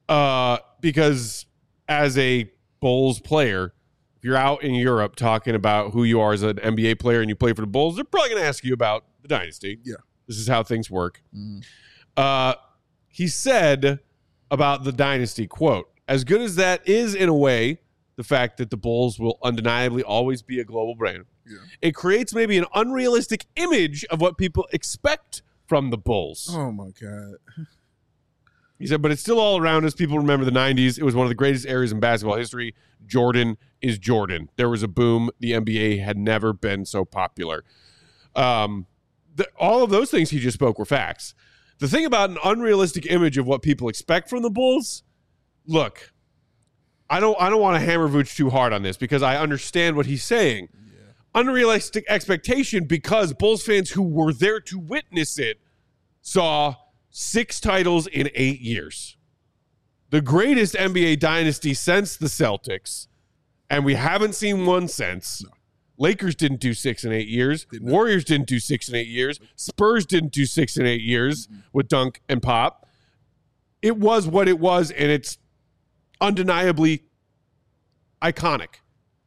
because as a Bulls player, if you're out in Europe talking about who you are as an NBA player and you play for the Bulls, they're probably going to ask you about the dynasty. Yeah. This is how things work. Mhm. He said about the dynasty, quote, "As good as that is in a way, the fact that the Bulls will undeniably always be a global brand, Yeah. it creates maybe an unrealistic image of what people expect from the Bulls." Oh, my God. He said, but it's still all around us. People remember the 90s. It was one of the greatest eras in basketball history. Jordan is Jordan. There was a boom. The NBA had never been so popular. All of those things he just spoke were facts. The thing about an unrealistic image of what people expect from the Bulls, look, I don't want to hammer Vooch too hard on this because I understand what he's saying. Yeah. Unrealistic expectation because Bulls fans who were there to witness it saw 6 titles in 8 years. The greatest NBA dynasty since the Celtics, and we haven't seen one since. No. Lakers didn't do 6 in 8 years. Did not. Warriors didn't do 6 in 8 years. Spurs didn't do 6 in 8 years with Dunk and Pop. It was what it was, and it's undeniably iconic.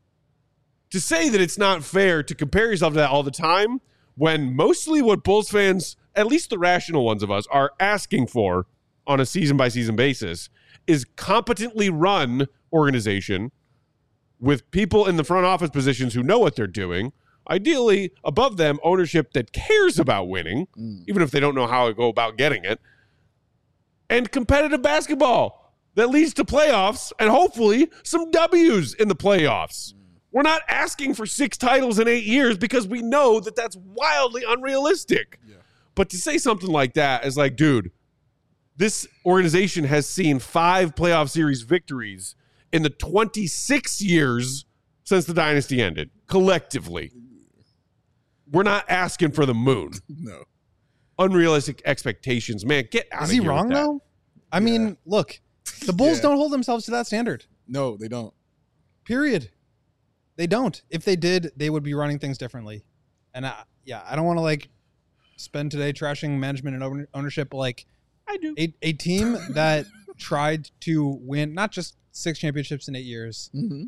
To say that it's not fair to compare yourself to that all the time when mostly what Bulls fans, at least the rational ones of us, are asking for on a season-by-season basis is competently run organization with people in the front office positions who know what they're doing, ideally above them ownership that cares about winning, even if they don't know how to go about getting it, and competitive basketball that leads to playoffs and hopefully some W's in the playoffs. We're not asking for 6 titles in 8 years because we know that that's wildly unrealistic. Yeah. But to say something like that is like, dude, This organization has seen 5 playoff series victories in the 26 years since the dynasty ended, collectively. We're not asking for the moon. No. Unrealistic expectations. Man, get out of here. Is he wrong, with that. though? I mean, look, the Bulls don't hold themselves to that standard. No, they don't. Period. They don't. If they did, they would be running things differently. And I don't want to like spend today trashing management and ownership, but like I do. A team that tried to win not just 6 championships in 8 years,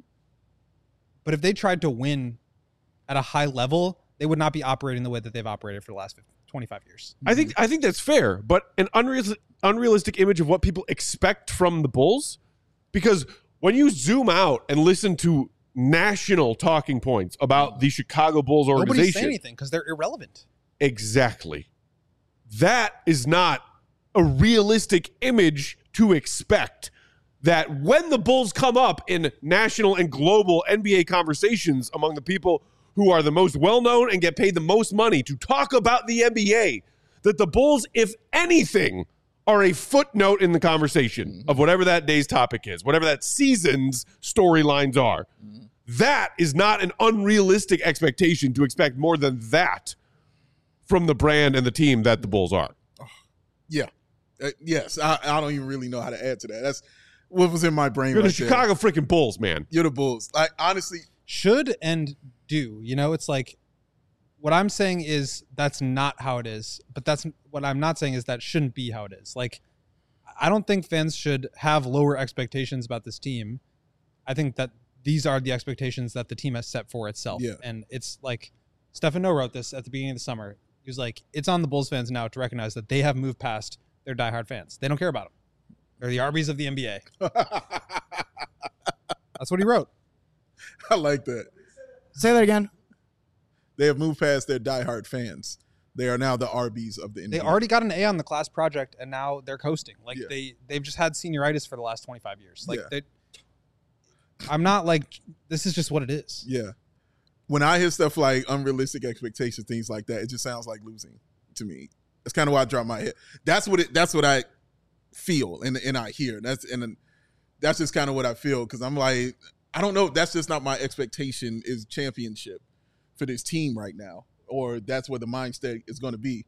but if they tried to win at a high level, they would not be operating the way that they've operated for the last 25 years. I think that's fair, but an unrealistic image of what people expect from the Bulls, because when you zoom out and listen to national talking points about the Chicago Bulls organization, nobody's saying anything because they're irrelevant. Exactly. That is not a realistic image to expect, that when the Bulls come up in national and global NBA conversations among the people who are the most well-known and get paid the most money to talk about the NBA, that the Bulls, if anything, are a footnote in the conversation of whatever that day's topic is, whatever that season's storylines are. That is not an unrealistic expectation to expect more than that from the brand and the team that the Bulls are. Yeah. Yes. I don't even really know how to add to that. That's what was in my brain. You're right the Chicago freaking Bulls, man. You're the Bulls. Like, honestly. Should and do. You know, it's like what I'm saying is that's not how it is. But that's what I'm not saying is that shouldn't be how it is. Like, I don't think fans should have lower expectations about this team. I think that these are the expectations that the team has set for itself. Yeah. And it's like Stephen No wrote this at the beginning of the summer. He was like, it's on the Bulls fans now to recognize that they have moved past their diehard fans. They don't care about them. They're the Arby's of the NBA. That's what he wrote. I like that. Say that again. They have moved past their diehard fans. They are now the Arby's of the NBA. They already got an A on the class project, and now they're coasting. Like they've just had senioritis for the last 25 years. Like I'm not like, this is just what it is. Yeah. When I hear stuff like unrealistic expectations, things like that, it just sounds like losing to me. That's kind of why I drop my head. That's what I feel and I hear. That's just kind of what I feel, because I'm like, I don't know. That's just not my expectation, is championship for this team right now, or that's where the mindset is going to be.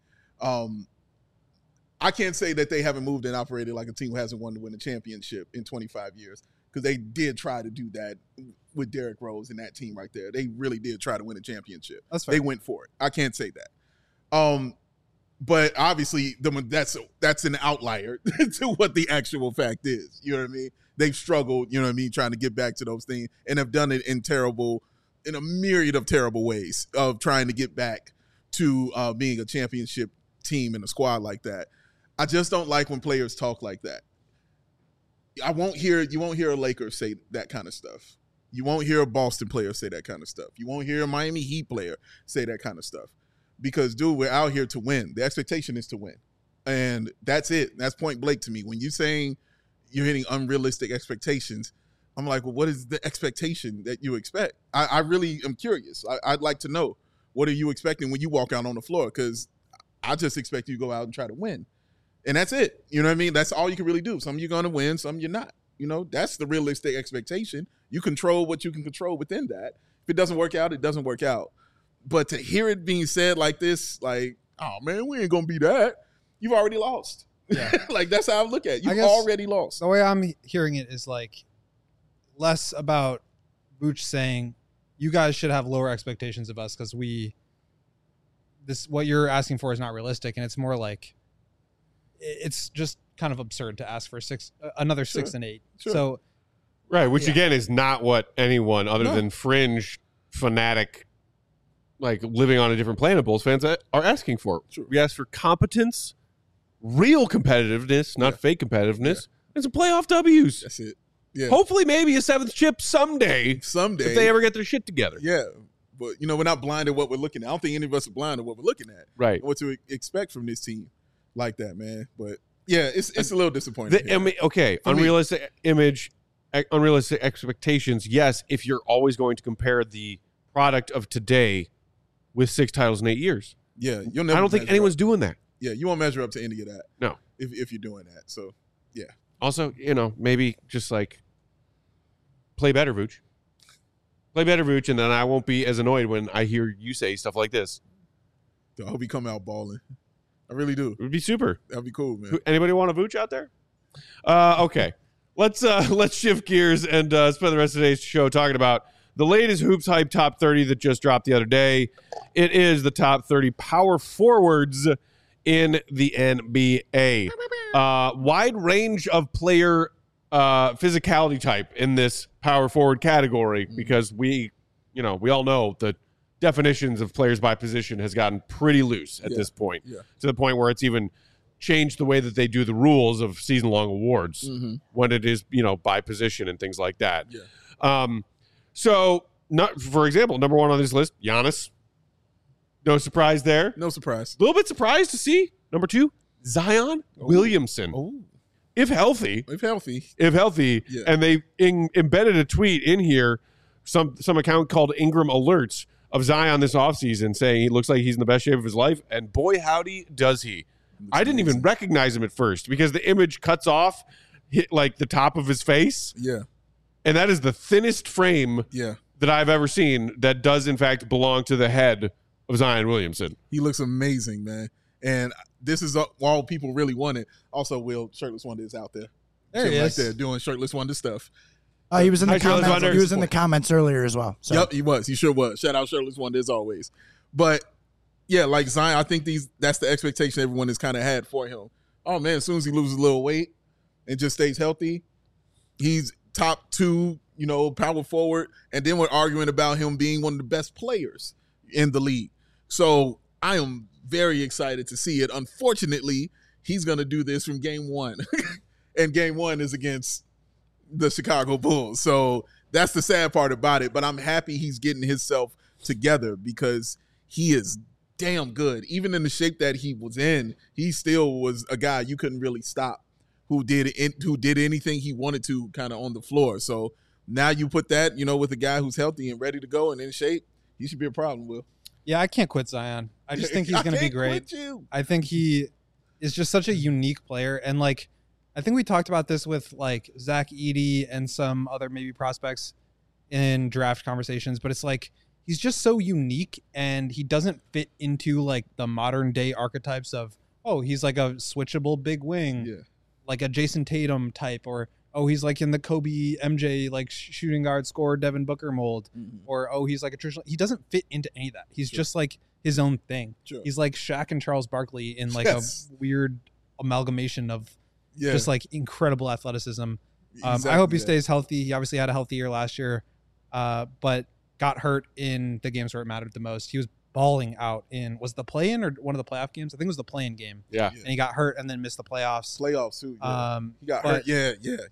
I can't say that they haven't moved and operated like a team who hasn't won to win a championship in 25 years, because they did try to do that with Derrick Rose and that team right there. They really did try to win a championship. That's fair. They went for it. I can't say that. But obviously, that's an outlier to what the actual fact is. You know what I mean? They've struggled, you know what I mean, trying to get back to those things, and have done it in a myriad of terrible ways of trying to get back to being a championship team and a squad like that. I just don't like when players talk like that. You won't hear a Lakers say that kind of stuff. You won't hear a Boston player say that kind of stuff. You won't hear a Miami Heat player say that kind of stuff. Because, dude, we're out here to win. The expectation is to win. And that's it. That's point blank to me. When you're saying you're hitting unrealistic expectations, I'm like, well, what is the expectation that you expect? I really am curious. I'd like to know, what are you expecting when you walk out on the floor? Because I just expect you to go out and try to win. And that's it. You know what I mean? That's all you can really do. Some you're going to win, some you're not. You know, that's the realistic expectation. You control what you can control within that. If it doesn't work out, it doesn't work out. But to hear it being said like this, like, oh, man, we ain't going to be that. You've already lost. Yeah. Like, that's how I look at it. You've already lost. The way I'm hearing it is, like, less about Vooch saying, you guys should have lower expectations of us because what you're asking for is not realistic. And it's more like, it's just kind of absurd to ask for another 6 and 8. Sure. So, right, which again is not what anyone other than fringe fanatic, like living on a different planet, Bulls fans are asking for. Sure. We ask for competence, real competitiveness, not fake competitiveness, and some playoff W's. That's it. Yeah. Hopefully, maybe a 7th chip someday. Someday. If they ever get their shit together. Yeah. But, you know, we're not blind to what we're looking at. I don't think any of us are blind to what we're looking at. Right. What to expect from this team like that, man. But, yeah, it's a little disappointing. Unrealistic image, unrealistic expectations. Yes, if you're always going to compare the product of today with 6 titles in 8 years. Yeah. You'll never I don't think anyone's doing that. Yeah, you won't measure up to any of that. No. if you're doing that. So yeah. Also, maybe just like play better, Vooch. Play better, Vooch, and then I won't be as annoyed when I hear you say stuff like this. I hope he come out balling. I really do. It would be super. That'd be cool, man. Anybody want a Vooch out there? Okay. Let's shift gears and spend the rest of today's show talking about the latest Hoops Hype Top 30 that just dropped the other day. It is the top 30 power forwards in the NBA. Wide range of player physicality type in this power forward category because we all know the definitions of players by position has gotten pretty loose at this point, to the point where it's even changed the way that they do the rules of season-long awards when it is, by position and things like that. So, for example, number one on this list, Giannis. No surprise there. No surprise. A little bit surprised to see number two, Zion Williamson. Oh. If healthy. Yeah. And they embedded a tweet in here, some account called Ingram Alerts of Zion this offseason saying he looks like he's in the best shape of his life. And boy, howdy, does he. I didn't even recognize him at first because the image cuts off like the top of his face. Yeah. And that is the thinnest frame that I've ever seen that does, in fact, belong to the head of Zion Williamson. He looks amazing, man. And this is all people really wanted. Also, Will, Shirtless Wonder is out there. There he is. Right there doing Shirtless Wonder stuff. He was in the Hi, Shirtless comments. Wonder. He was in the comments earlier as well. So. Yep, he was. He sure was. Shout out Shirtless Wonder as always. But yeah, like Zion, I think that's the expectation everyone has kind of had for him. Oh man, as soon as he loses a little weight and just stays healthy, he's top 2, power forward. And then we're arguing about him being one of the best players in the league. So I am very excited to see it. Unfortunately, he's going to do this from game 1. And game 1 is against the Chicago Bulls. So that's the sad part about it. But I'm happy he's getting himself together because he is damn good. Even in the shape that he was in, he still was a guy you couldn't really stop who did anything he wanted to kind of on the floor. So now you put that, with a guy who's healthy and ready to go and in shape, he should be a problem, Will. Yeah, I can't quit Zion. I just think he's going to be great. I think he is just such a unique player. And, I think we talked about this with, Zach Edey and some other maybe prospects in draft conversations. But it's he's just so unique, and he doesn't fit into, the modern-day archetypes of, oh, he's a switchable big wing, like a Jason Tatum type, or, oh, he's in the Kobe MJ, shooting guard scorer Devin Booker mold, or, oh, he's a traditional. He doesn't fit into any of that. He's just his own thing. Sure. He's like Shaq and Charles Barkley in a weird amalgamation of just incredible athleticism. Exactly, I hope he stays healthy. He obviously had a healthy year last year, but got hurt in the games where it mattered the most. He was balling out was the play-in or one of the playoff games? I think it was the play-in game. Yeah. Yeah. And he got hurt and then missed the playoffs. Playoffs too. Yeah. He got hurt. Yeah.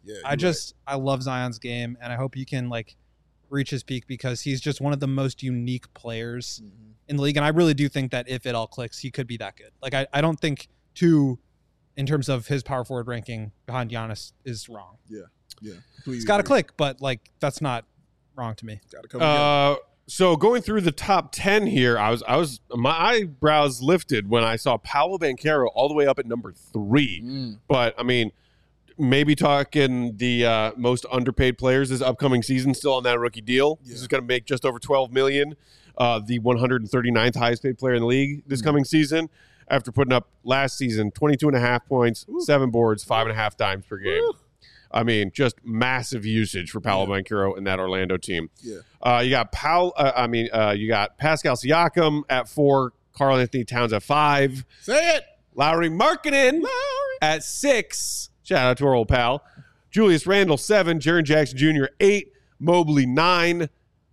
I love Zion's game, and I hope he can reach his peak because he's just one of the most unique players in the league. And I really do think that if it all clicks, he could be that good. I don't think in terms of his power forward ranking behind Giannis is wrong. Yeah. It's got to click, but that's not wrong to me. Got to come together. So going through the top 10 here, I was my eyebrows lifted when I saw Paolo Banchero all the way up at number 3. But I mean, maybe talking the most underpaid players this upcoming season, still on that rookie deal. This is going to make just over $12 million. The 139th highest paid player in the league this coming season, after putting up last season 22.5 points, 7 boards, 5.5 dimes per game. I mean, just massive usage for Paolo Banchero in that Orlando team. Yeah. You got you got Pascal Siakam at 4, Karl Anthony Towns at 5. Say it. Lauri Markkanen at 6. Shout out to our old pal. Julius Randle 7, Jaren Jackson Jr. 8, Mobley 9.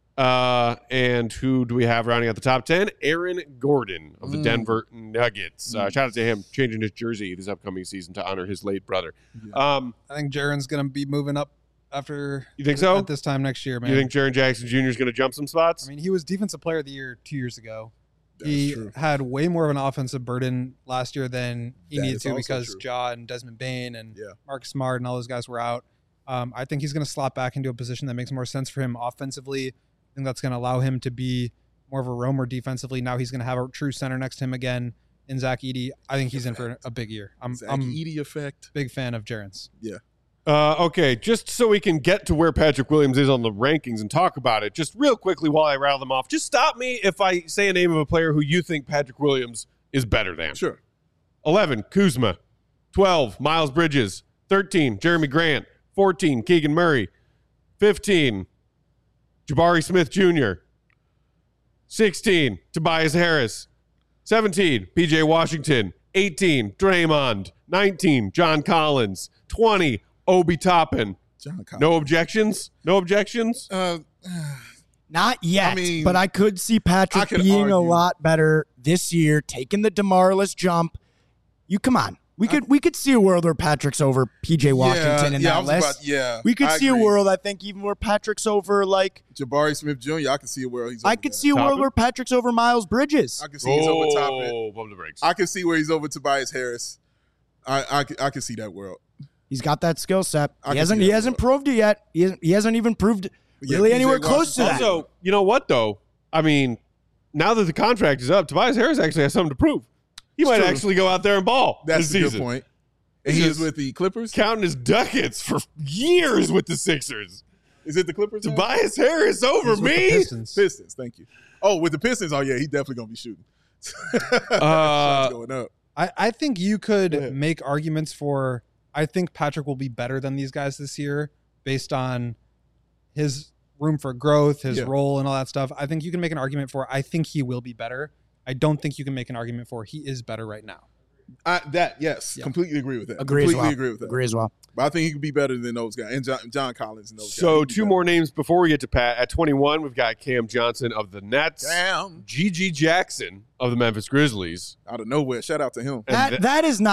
And who do we have rounding out the top 10? Aaron Gordon of the Denver Nuggets. Shout out to him changing his jersey this upcoming season to honor his late brother. I think Jaren's going to be moving up after. You think so? At this time next year, man. You think Jaren Jackson Jr. is going to jump some spots? I mean, he was Defensive Player of the Year 2 years ago. That's true. Had way more of an offensive burden last year than he That needed is to also because true. Ja and Desmond Bane and Yeah. Mark Smart and all those guys were out. I think he's going to slot back into a position that makes more sense for him offensively. I think that's going to allow him to be more of a roamer defensively. Now he's going to have a true center next to him again. in Zach Edey. I think he's in for a big year. I'm Edey effect. big fan of Jarens. Yeah. Okay, just so we can get to where Patrick Williams is on the rankings and talk about it, just real quickly while I rattle them off, just stop me if I say a name of a player who you think Patrick Williams is better than. Sure. 11, Kuzma. 12, Miles Bridges. 13, Jeremy Grant. 14, Keegan Murray. 15, Jabari Smith Jr. 16, Tobias Harris. 17, PJ Washington. 18, Draymond. 19, John Collins. 20, Obi Toppin. John Collins. No objections? No objections? Not yet, I mean, but I could see Patrick I could being a argue. lot better this year, taking the DeMarlis jump. You come on. We could see a world where Patrick's over PJ Washington in that list. We could I see a agree. world, I think, even where Patrick's over like Jabari Smith Jr. I can see where he's. I over could that. see a world Toppin? where Patrick's over Miles Bridges. I can see he's over Toppin. Bump the brakes. I can see where he's over Tobias Harris. I can see that world. He's got that skill set. I He can see that hasn't proved it yet. He hasn't even proved Yeah, really PJ anywhere close to that. Also, you know what, though? I mean, now that the contract is up, Tobias Harris actually has something to prove. He might true. actually go out there and ball That's this a good season. point. And he is with the Clippers. Counting his ducats for years with the Sixers. Is it the Clippers? now? Tobias Harris over He's with the me? Pistons. Pistons. Thank you. Oh, with the Pistons. Oh yeah, he's definitely gonna be shooting. Uh, going up. I think you could Go ahead. make arguments for. I think Patrick will be better than these guys this year based on his room for growth, his Yeah. role, and all that stuff. I think you can make an argument for. I think he will be better. I don't think you can make an argument for he is better right now. Yes, Yeah. completely agree with that. Agree as completely well. agree with that. Agree as well. But I think he could be better than those guys and John Collins and those guys. So He could be two better. more names before we get to Pat. At 21, we've got Cam Johnson of the Nets. Damn. G.G. Jackson of the Memphis Grizzlies. Out of nowhere. Shout out to him. And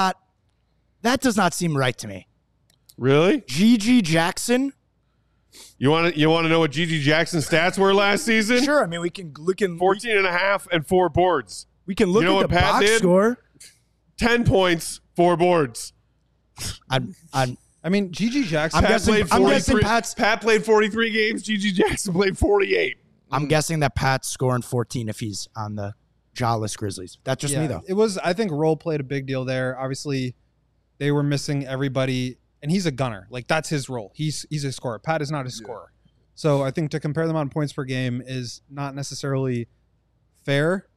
That does not seem right to me. Really? G.G. Jackson? You want to know what G.G. Jackson's stats were last season? Sure. I mean, we can look 14 and a half and 4 boards. we can look You know at what the Pat box did? score. 10 points, 4 boards. I mean, G.G. Jackson. I'm guessing Pat's- Pat played 43 games. G.G. Jackson played 48. I'm guessing that Pat's scoring 14 if he's on the jawless Grizzlies. That's just me, though. It was. I think role played a big deal there. Obviously, they were missing everybody, and he's a gunner. Like that's his role. He's a scorer. Pat is not a scorer. So I think to compare them on points per game is not necessarily fair.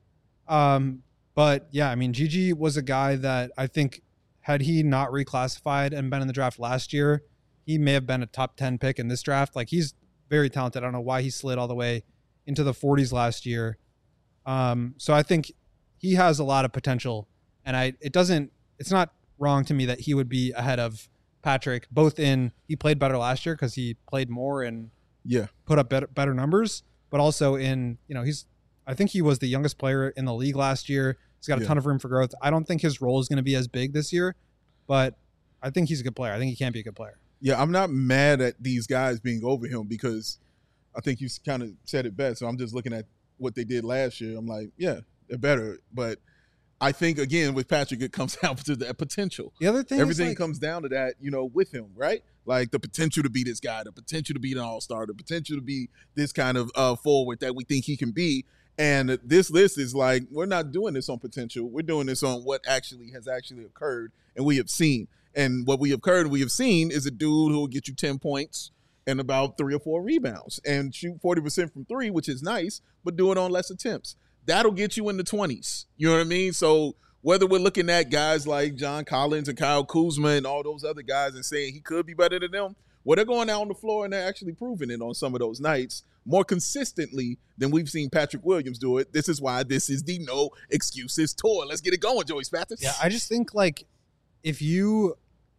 But yeah, I mean, Gigi was a guy that I think had he not reclassified and been in the draft last year, he may have been a top 10 pick in this draft. Like he's very talented. I don't know why he slid all the way into the 40s last year. So I think he has a lot of potential, and it's not wrong to me that he would be ahead of Patrick, both in he played better last year because he played more and put up better numbers, but also in, I think he was the youngest player in the league last year. He's got a ton of room for growth. I don't think his role is going to be as big this year, but I think he's a good player. I think he can be a good player. Yeah, I'm not mad at these guys being over him because I think you kind of said it best. So I'm just looking at what they did last year. I'm like, yeah, they're better. But I think, again, with Patrick, it comes down to that potential. The other thing Everything is comes down to that, with him, right? Like the potential to be this guy, the potential to be an all-star, the potential to be this kind of forward that we think he can be. And this list is like, we're not doing this on potential. We're doing this on what has actually occurred and we have seen. And what we have seen is a dude who will get you 10 points and about 3 or 4 rebounds and shoot 40% from 3, which is nice, but do it on less attempts. That'll get you in the 20s. You know what I mean? So whether we're looking at guys like John Collins and Kyle Kuzma and all those other guys and saying he could be better than them, well, they're going out on the floor and they're actually proving it on some of those nights more consistently than we've seen Patrick Williams do it. This is why this is the No Excuses Tour. Let's get it going, Joey Spathis. Yeah, I just think like if you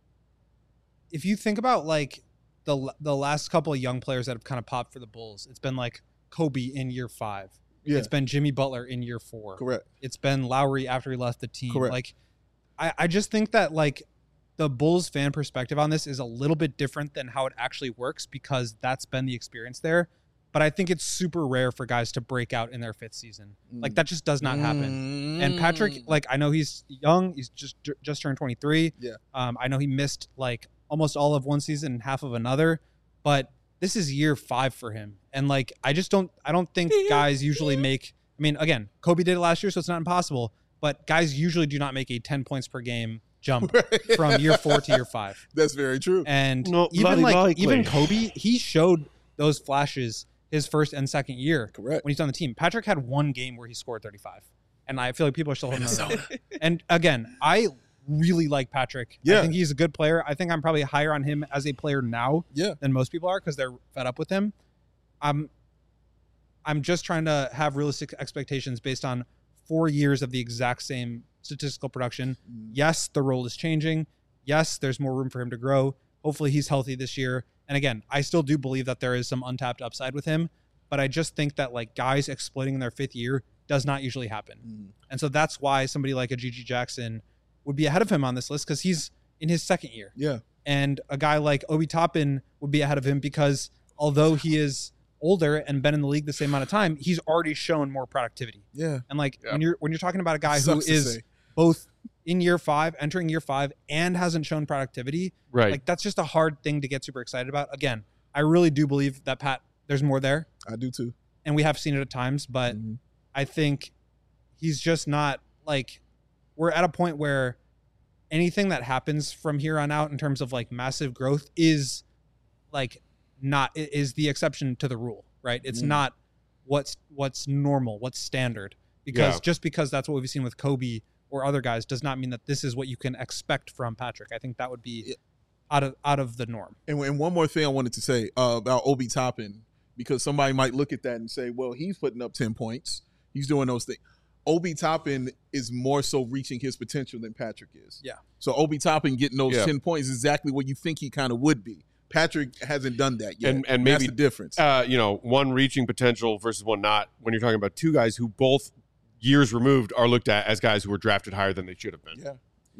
think about like the last couple of young players that have kind of popped for the Bulls, it's been like Kobe in year 5. Yeah. It's been Jimmy Butler in year 4. Correct. It's been Lowry after he left the team. Correct. Like I just think that like the Bulls fan perspective on this is a little bit different than how it actually works because that's been the experience there. But I think it's super rare for guys to break out in their 5th season. Like that just does not happen. And Patrick, like I know he's young. He's just turned 23. Yeah. I know he missed like almost all of one season and half of another, but this is year 5 for him. And like I don't think guys usually make. I mean, again, Kobe did it last year, so it's not impossible. but guys usually do not make a 10 points per game jump from year 4 to year 5. That's very true. And No, even Kobe, he showed those flashes his first and second year. Correct. When he's on the team. Patrick had one game where he scored 35. And I feel like people are still holding on. And again, I really like Patrick. Yeah. I think he's a good player. I think I'm probably higher on him as a player now Yeah. than most people are because they're fed up with him. I'm just trying to have realistic expectations based on 4 years of the exact same statistical production. Yes, the role is changing. Yes, there's more room for him to grow. Hopefully he's healthy this year. And again, I still do believe that there is some untapped upside with him, but I just think that like guys exploiting in their 5th year does not usually happen. And so that's why somebody like a Gigi Jackson would be ahead of him on this list because he's in his 2nd year. Yeah. And a guy like Obi Toppin would be ahead of him because although he is older and been in the league the same amount of time, he's already shown more productivity. Yeah. And like when you're talking about a guy who Sucks to is say. both in year 5, entering year 5, and hasn't shown productivity, Right. like that's just a hard thing to get super excited about. Again, I really do believe that there's more there, I do too. and we have seen it at times, but I think he's just not like, we're at a point where anything that happens from here on out in terms of like massive growth is like is the exception to the rule, right? It's not what's normal, what's standard, because just because that's what we've seen with Kobe or other guys does not mean that this is what you can expect from Patrick. I think that would be out of the norm. And one more thing I wanted to say about Obi Toppin, because somebody might look at that and say, well, he's putting up 10 points. He's doing those things. Obi Toppin is more so reaching his potential than Patrick is. Yeah. So Obi Toppin getting those 10 points is exactly what you think he kind of would be. Patrick hasn't done that yet. And maybe that's the difference. One reaching potential versus one not. When you're talking about two guys who both years removed are looked at as guys who were drafted higher than they should have been.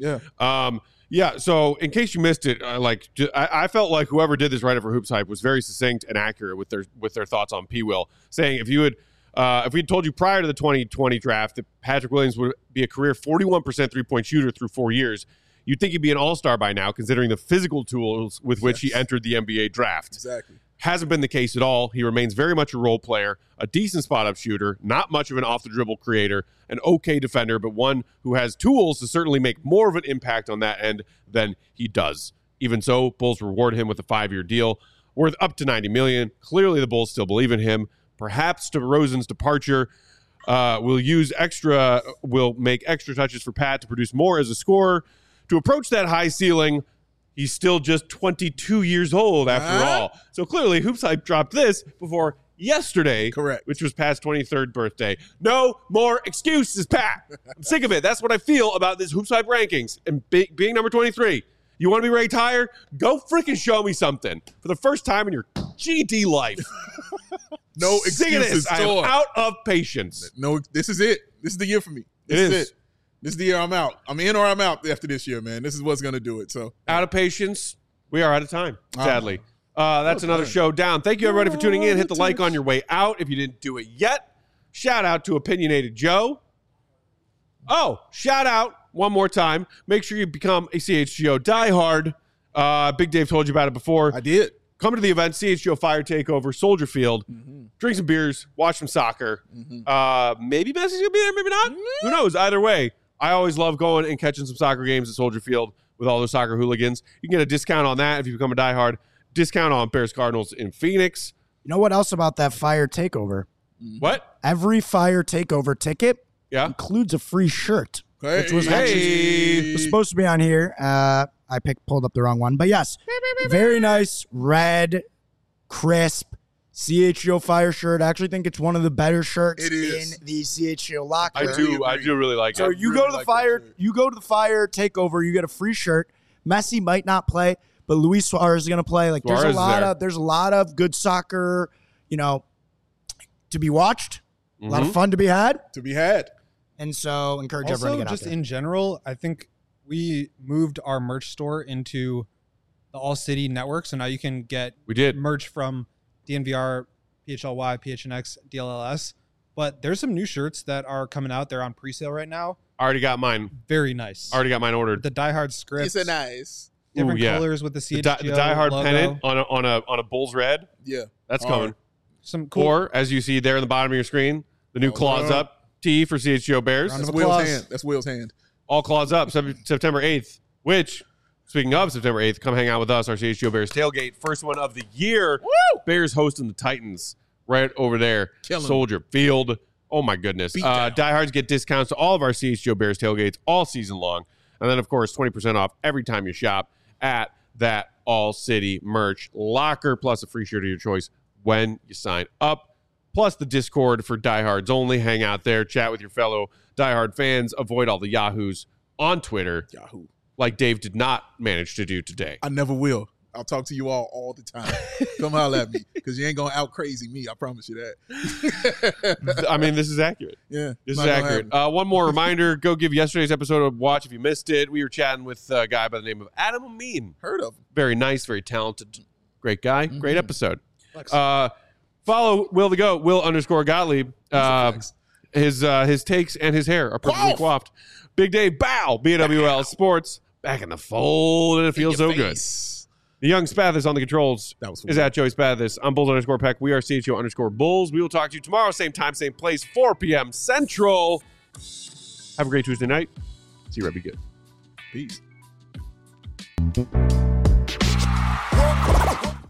Yeah. So in case you missed it, I felt like whoever did this write-up for Hoops Hype was very succinct and accurate with their thoughts on P. Will, saying if we told you prior to the 2020 draft that Patrick Williams would be a career 41% 3-point shooter through 4 years, you'd think he'd be an all-star by now, considering the physical tools with which he entered the NBA draft. Exactly. Hasn't been the case at all. He remains very much a role player, a decent spot-up shooter, not much of an off-the-dribble creator, an okay defender, but one who has tools to certainly make more of an impact on that end than he does. Even so, Bulls reward him with a 5-year deal worth up to $90 million. Clearly, the Bulls still believe in him. Perhaps DeRozan's departure will make extra touches for Pat to produce more as a scorer. To approach that high ceiling, he's still just 22 years old after all. So clearly, Hoops Hype dropped this before yesterday, Correct. which was Pat's 23rd birthday. No more excuses, Pat. I'm sick of it. That's what I feel about this Hoops Hype rankings and being number 23. You want to be ranked higher? Go freaking show me something for the first time in your GD life. No Sick of excuses. this. I am out of patience. No, this is it. This is the year for me. This is it. This is the year I'm out. I'm in or I'm out after this year, man. This is what's going to do it. So out of patience. We are out of time, sadly. That's another show down. Thank you, everybody, for tuning in. Hit the like on your way out if you didn't do it yet. Shout out to Opinionated Joe. Oh, shout out one more time. Make sure you become a CHGO diehard. Big Dave told you about it before. I did. Come to the event, CHGO Fire Takeover, Soldier Field. Drink some beers, watch some soccer. Maybe Messi's going to be there, maybe not. Who knows? Either way, I always love going and catching some soccer games at Soldier Field with all those soccer hooligans. You can get a discount on that if you become a diehard. Discount on Bears Cardinals in Phoenix. You know what else about that Fire Takeover? What? Every Fire Takeover ticket includes a free shirt, which was actually was supposed to be on here. I pulled up the wrong one, but yes, very nice red, crisp CHGO Fire shirt. I actually think it's one of the better shirts in the CHGO locker. I do really like it. So you go to the Fire Takeover, you get a free shirt. Messi might not play, but Luis Suarez is going to play. Like there's a lot of good soccer, to be watched. A lot of fun to be had. And so encourage everyone to get out there. In general, I think we moved our merch store into the All City network. So now you can get merch from DNVR, PHLY, PHNX, DLLS. But there's some new shirts that are coming out. They're on pre-sale right now. Already got mine. Very nice. Already got mine ordered. The Die Hard script. It's different Different colors with the CHGO the Die Hard logo. pennant on a Bulls red. Yeah. That's coming. Some cool. Or, as you see there in the bottom of your screen, the new claws up. T for CHGO Bears. Round of That's Will's applause. hand. That's Will's hand. All claws up September 8th, which, speaking of September 8th, come hang out with us, our CHGO Bears tailgate. First one of the year. Woo! Bears hosting the Titans right over there. Killing Soldier Field. Oh, my goodness. Beat down. Diehards get discounts to all of our CHGO Bears tailgates all season long. And then, of course, 20% off every time you shop at that All City merch locker, plus a free shirt of your choice when you sign up. Plus the Discord for diehards only. Hang out there, chat with your fellow diehard fans, avoid all the yahoos on Twitter, Yahoo. like Dave did not manage to do today. I never will. I'll talk to you all the time. Come holler at me because you ain't going to out crazy me. I promise you that. I mean, this is accurate. Yeah. This not is gonna accurate. happen. One more reminder, go give yesterday's episode a watch if you missed it. We were chatting with a guy by the name of Adam Amin. Heard of him. Very nice, very talented, great guy. Mm-hmm. Great episode. Follow Will the Goat, Will_Gottlieb. His takes and his hair are perfectly coiffed. Big Dave, bow. BWL Sports back in the fold, and it feels so good. The young Spathis on the controls That was is at Joey Spathis. I'm Bulls_Peck. We are CHGO_Bulls. We will talk to you tomorrow, same time, same place, 4 p.m. Central. Have a great Tuesday night. See you right. Be good. Peace.